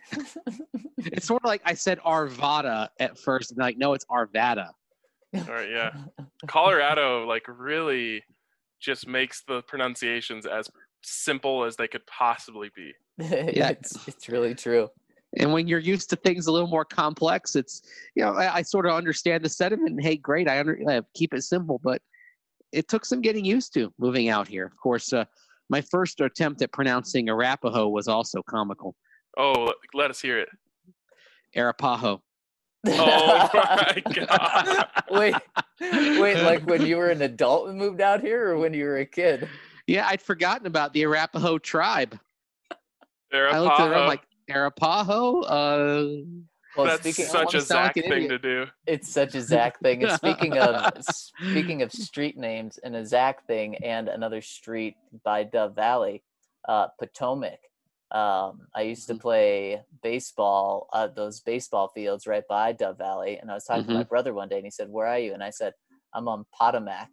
It's sort of like I said Arvada at first, and they're like, "No, it's Arvada." All right, yeah. Colorado, like, really just makes the pronunciations as simple as they could possibly be. Yeah. it's it's really true. And when you're used to things a little more complex, it's, you know, I, I sort of understand the sentiment. And, hey, great, I under, uh, keep it simple, but it took some getting used to moving out here. Of course, uh, my first attempt at pronouncing Arapaho was also comical. Oh, let us hear it. Arapaho. Oh my God. wait, wait, like when you were an adult and moved out here, or when you were a kid? Yeah, I'd forgotten about the Arapaho tribe. Arapaho. I looked at it, I'm like, Arapaho? Uh, Well, That's speaking, such a wanna sound Zach like an thing idiot. to do. it's such a Zach thing. And speaking of speaking of street names and a Zach thing, and another street by Dove Valley, uh, Potomac. Um, I used to play baseball at those baseball fields right by Dove Valley, and I was talking to my brother one day, and he said, "Where are you?" And I said, "I'm on Potomac."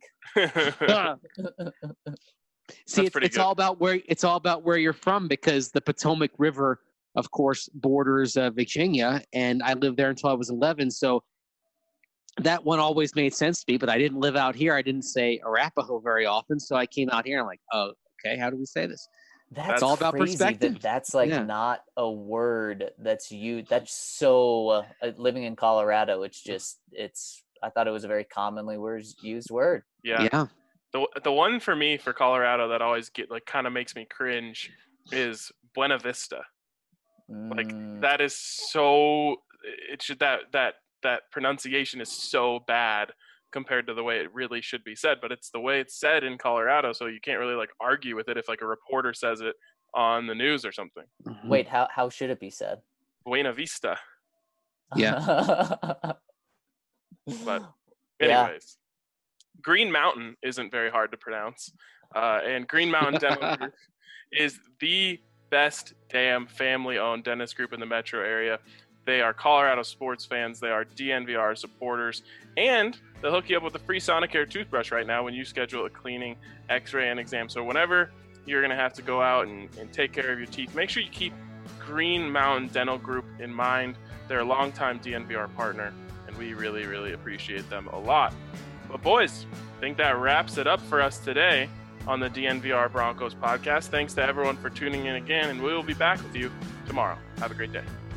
See, it's, pretty it's good. all about where it's all about where you're from, because the Potomac River, of course, borders uh, Virginia, and I lived there until I was eleven. So that one always made sense to me, but I didn't live out here. I didn't say Arapaho very often. So I came out here and I'm like, oh, okay, how do we say this? That's, That's all all about about perspective. That that's like Yeah. not a word that's you. That's so uh, living in Colorado. It's just it's. I thought it was a very commonly words, used word. Yeah. Yeah. The the one for me for Colorado that always get like kind of makes me cringe is Buena Vista. Like Mm, that is so it should that that that pronunciation is so bad compared to the way it really should be said, but it's the way it's said in Colorado, so you can't really like argue with it if like a reporter says it on the news or something. Mhm. wait, how how should it be said? Buena Vista. Yeah. But Yeah. anyways, Green Mountain isn't very hard to pronounce, uh, and Green Mountain Dental Group is the best damn family-owned dentist group in the metro area. They are Colorado sports fans. They are D N V R supporters, and they'll hook you up with a free Sonicare toothbrush right now when you schedule a cleaning, X-ray, and exam. So whenever you're gonna have to go out and, and take care of your teeth, make sure you keep Green Mountain Dental Group in mind. They're a longtime D N V R partner, and we really, really appreciate them a lot. But boys, I think that wraps it up for us today on the D N V R Broncos podcast. Thanks to everyone for tuning in again, and we will be back with you tomorrow. Have a great day.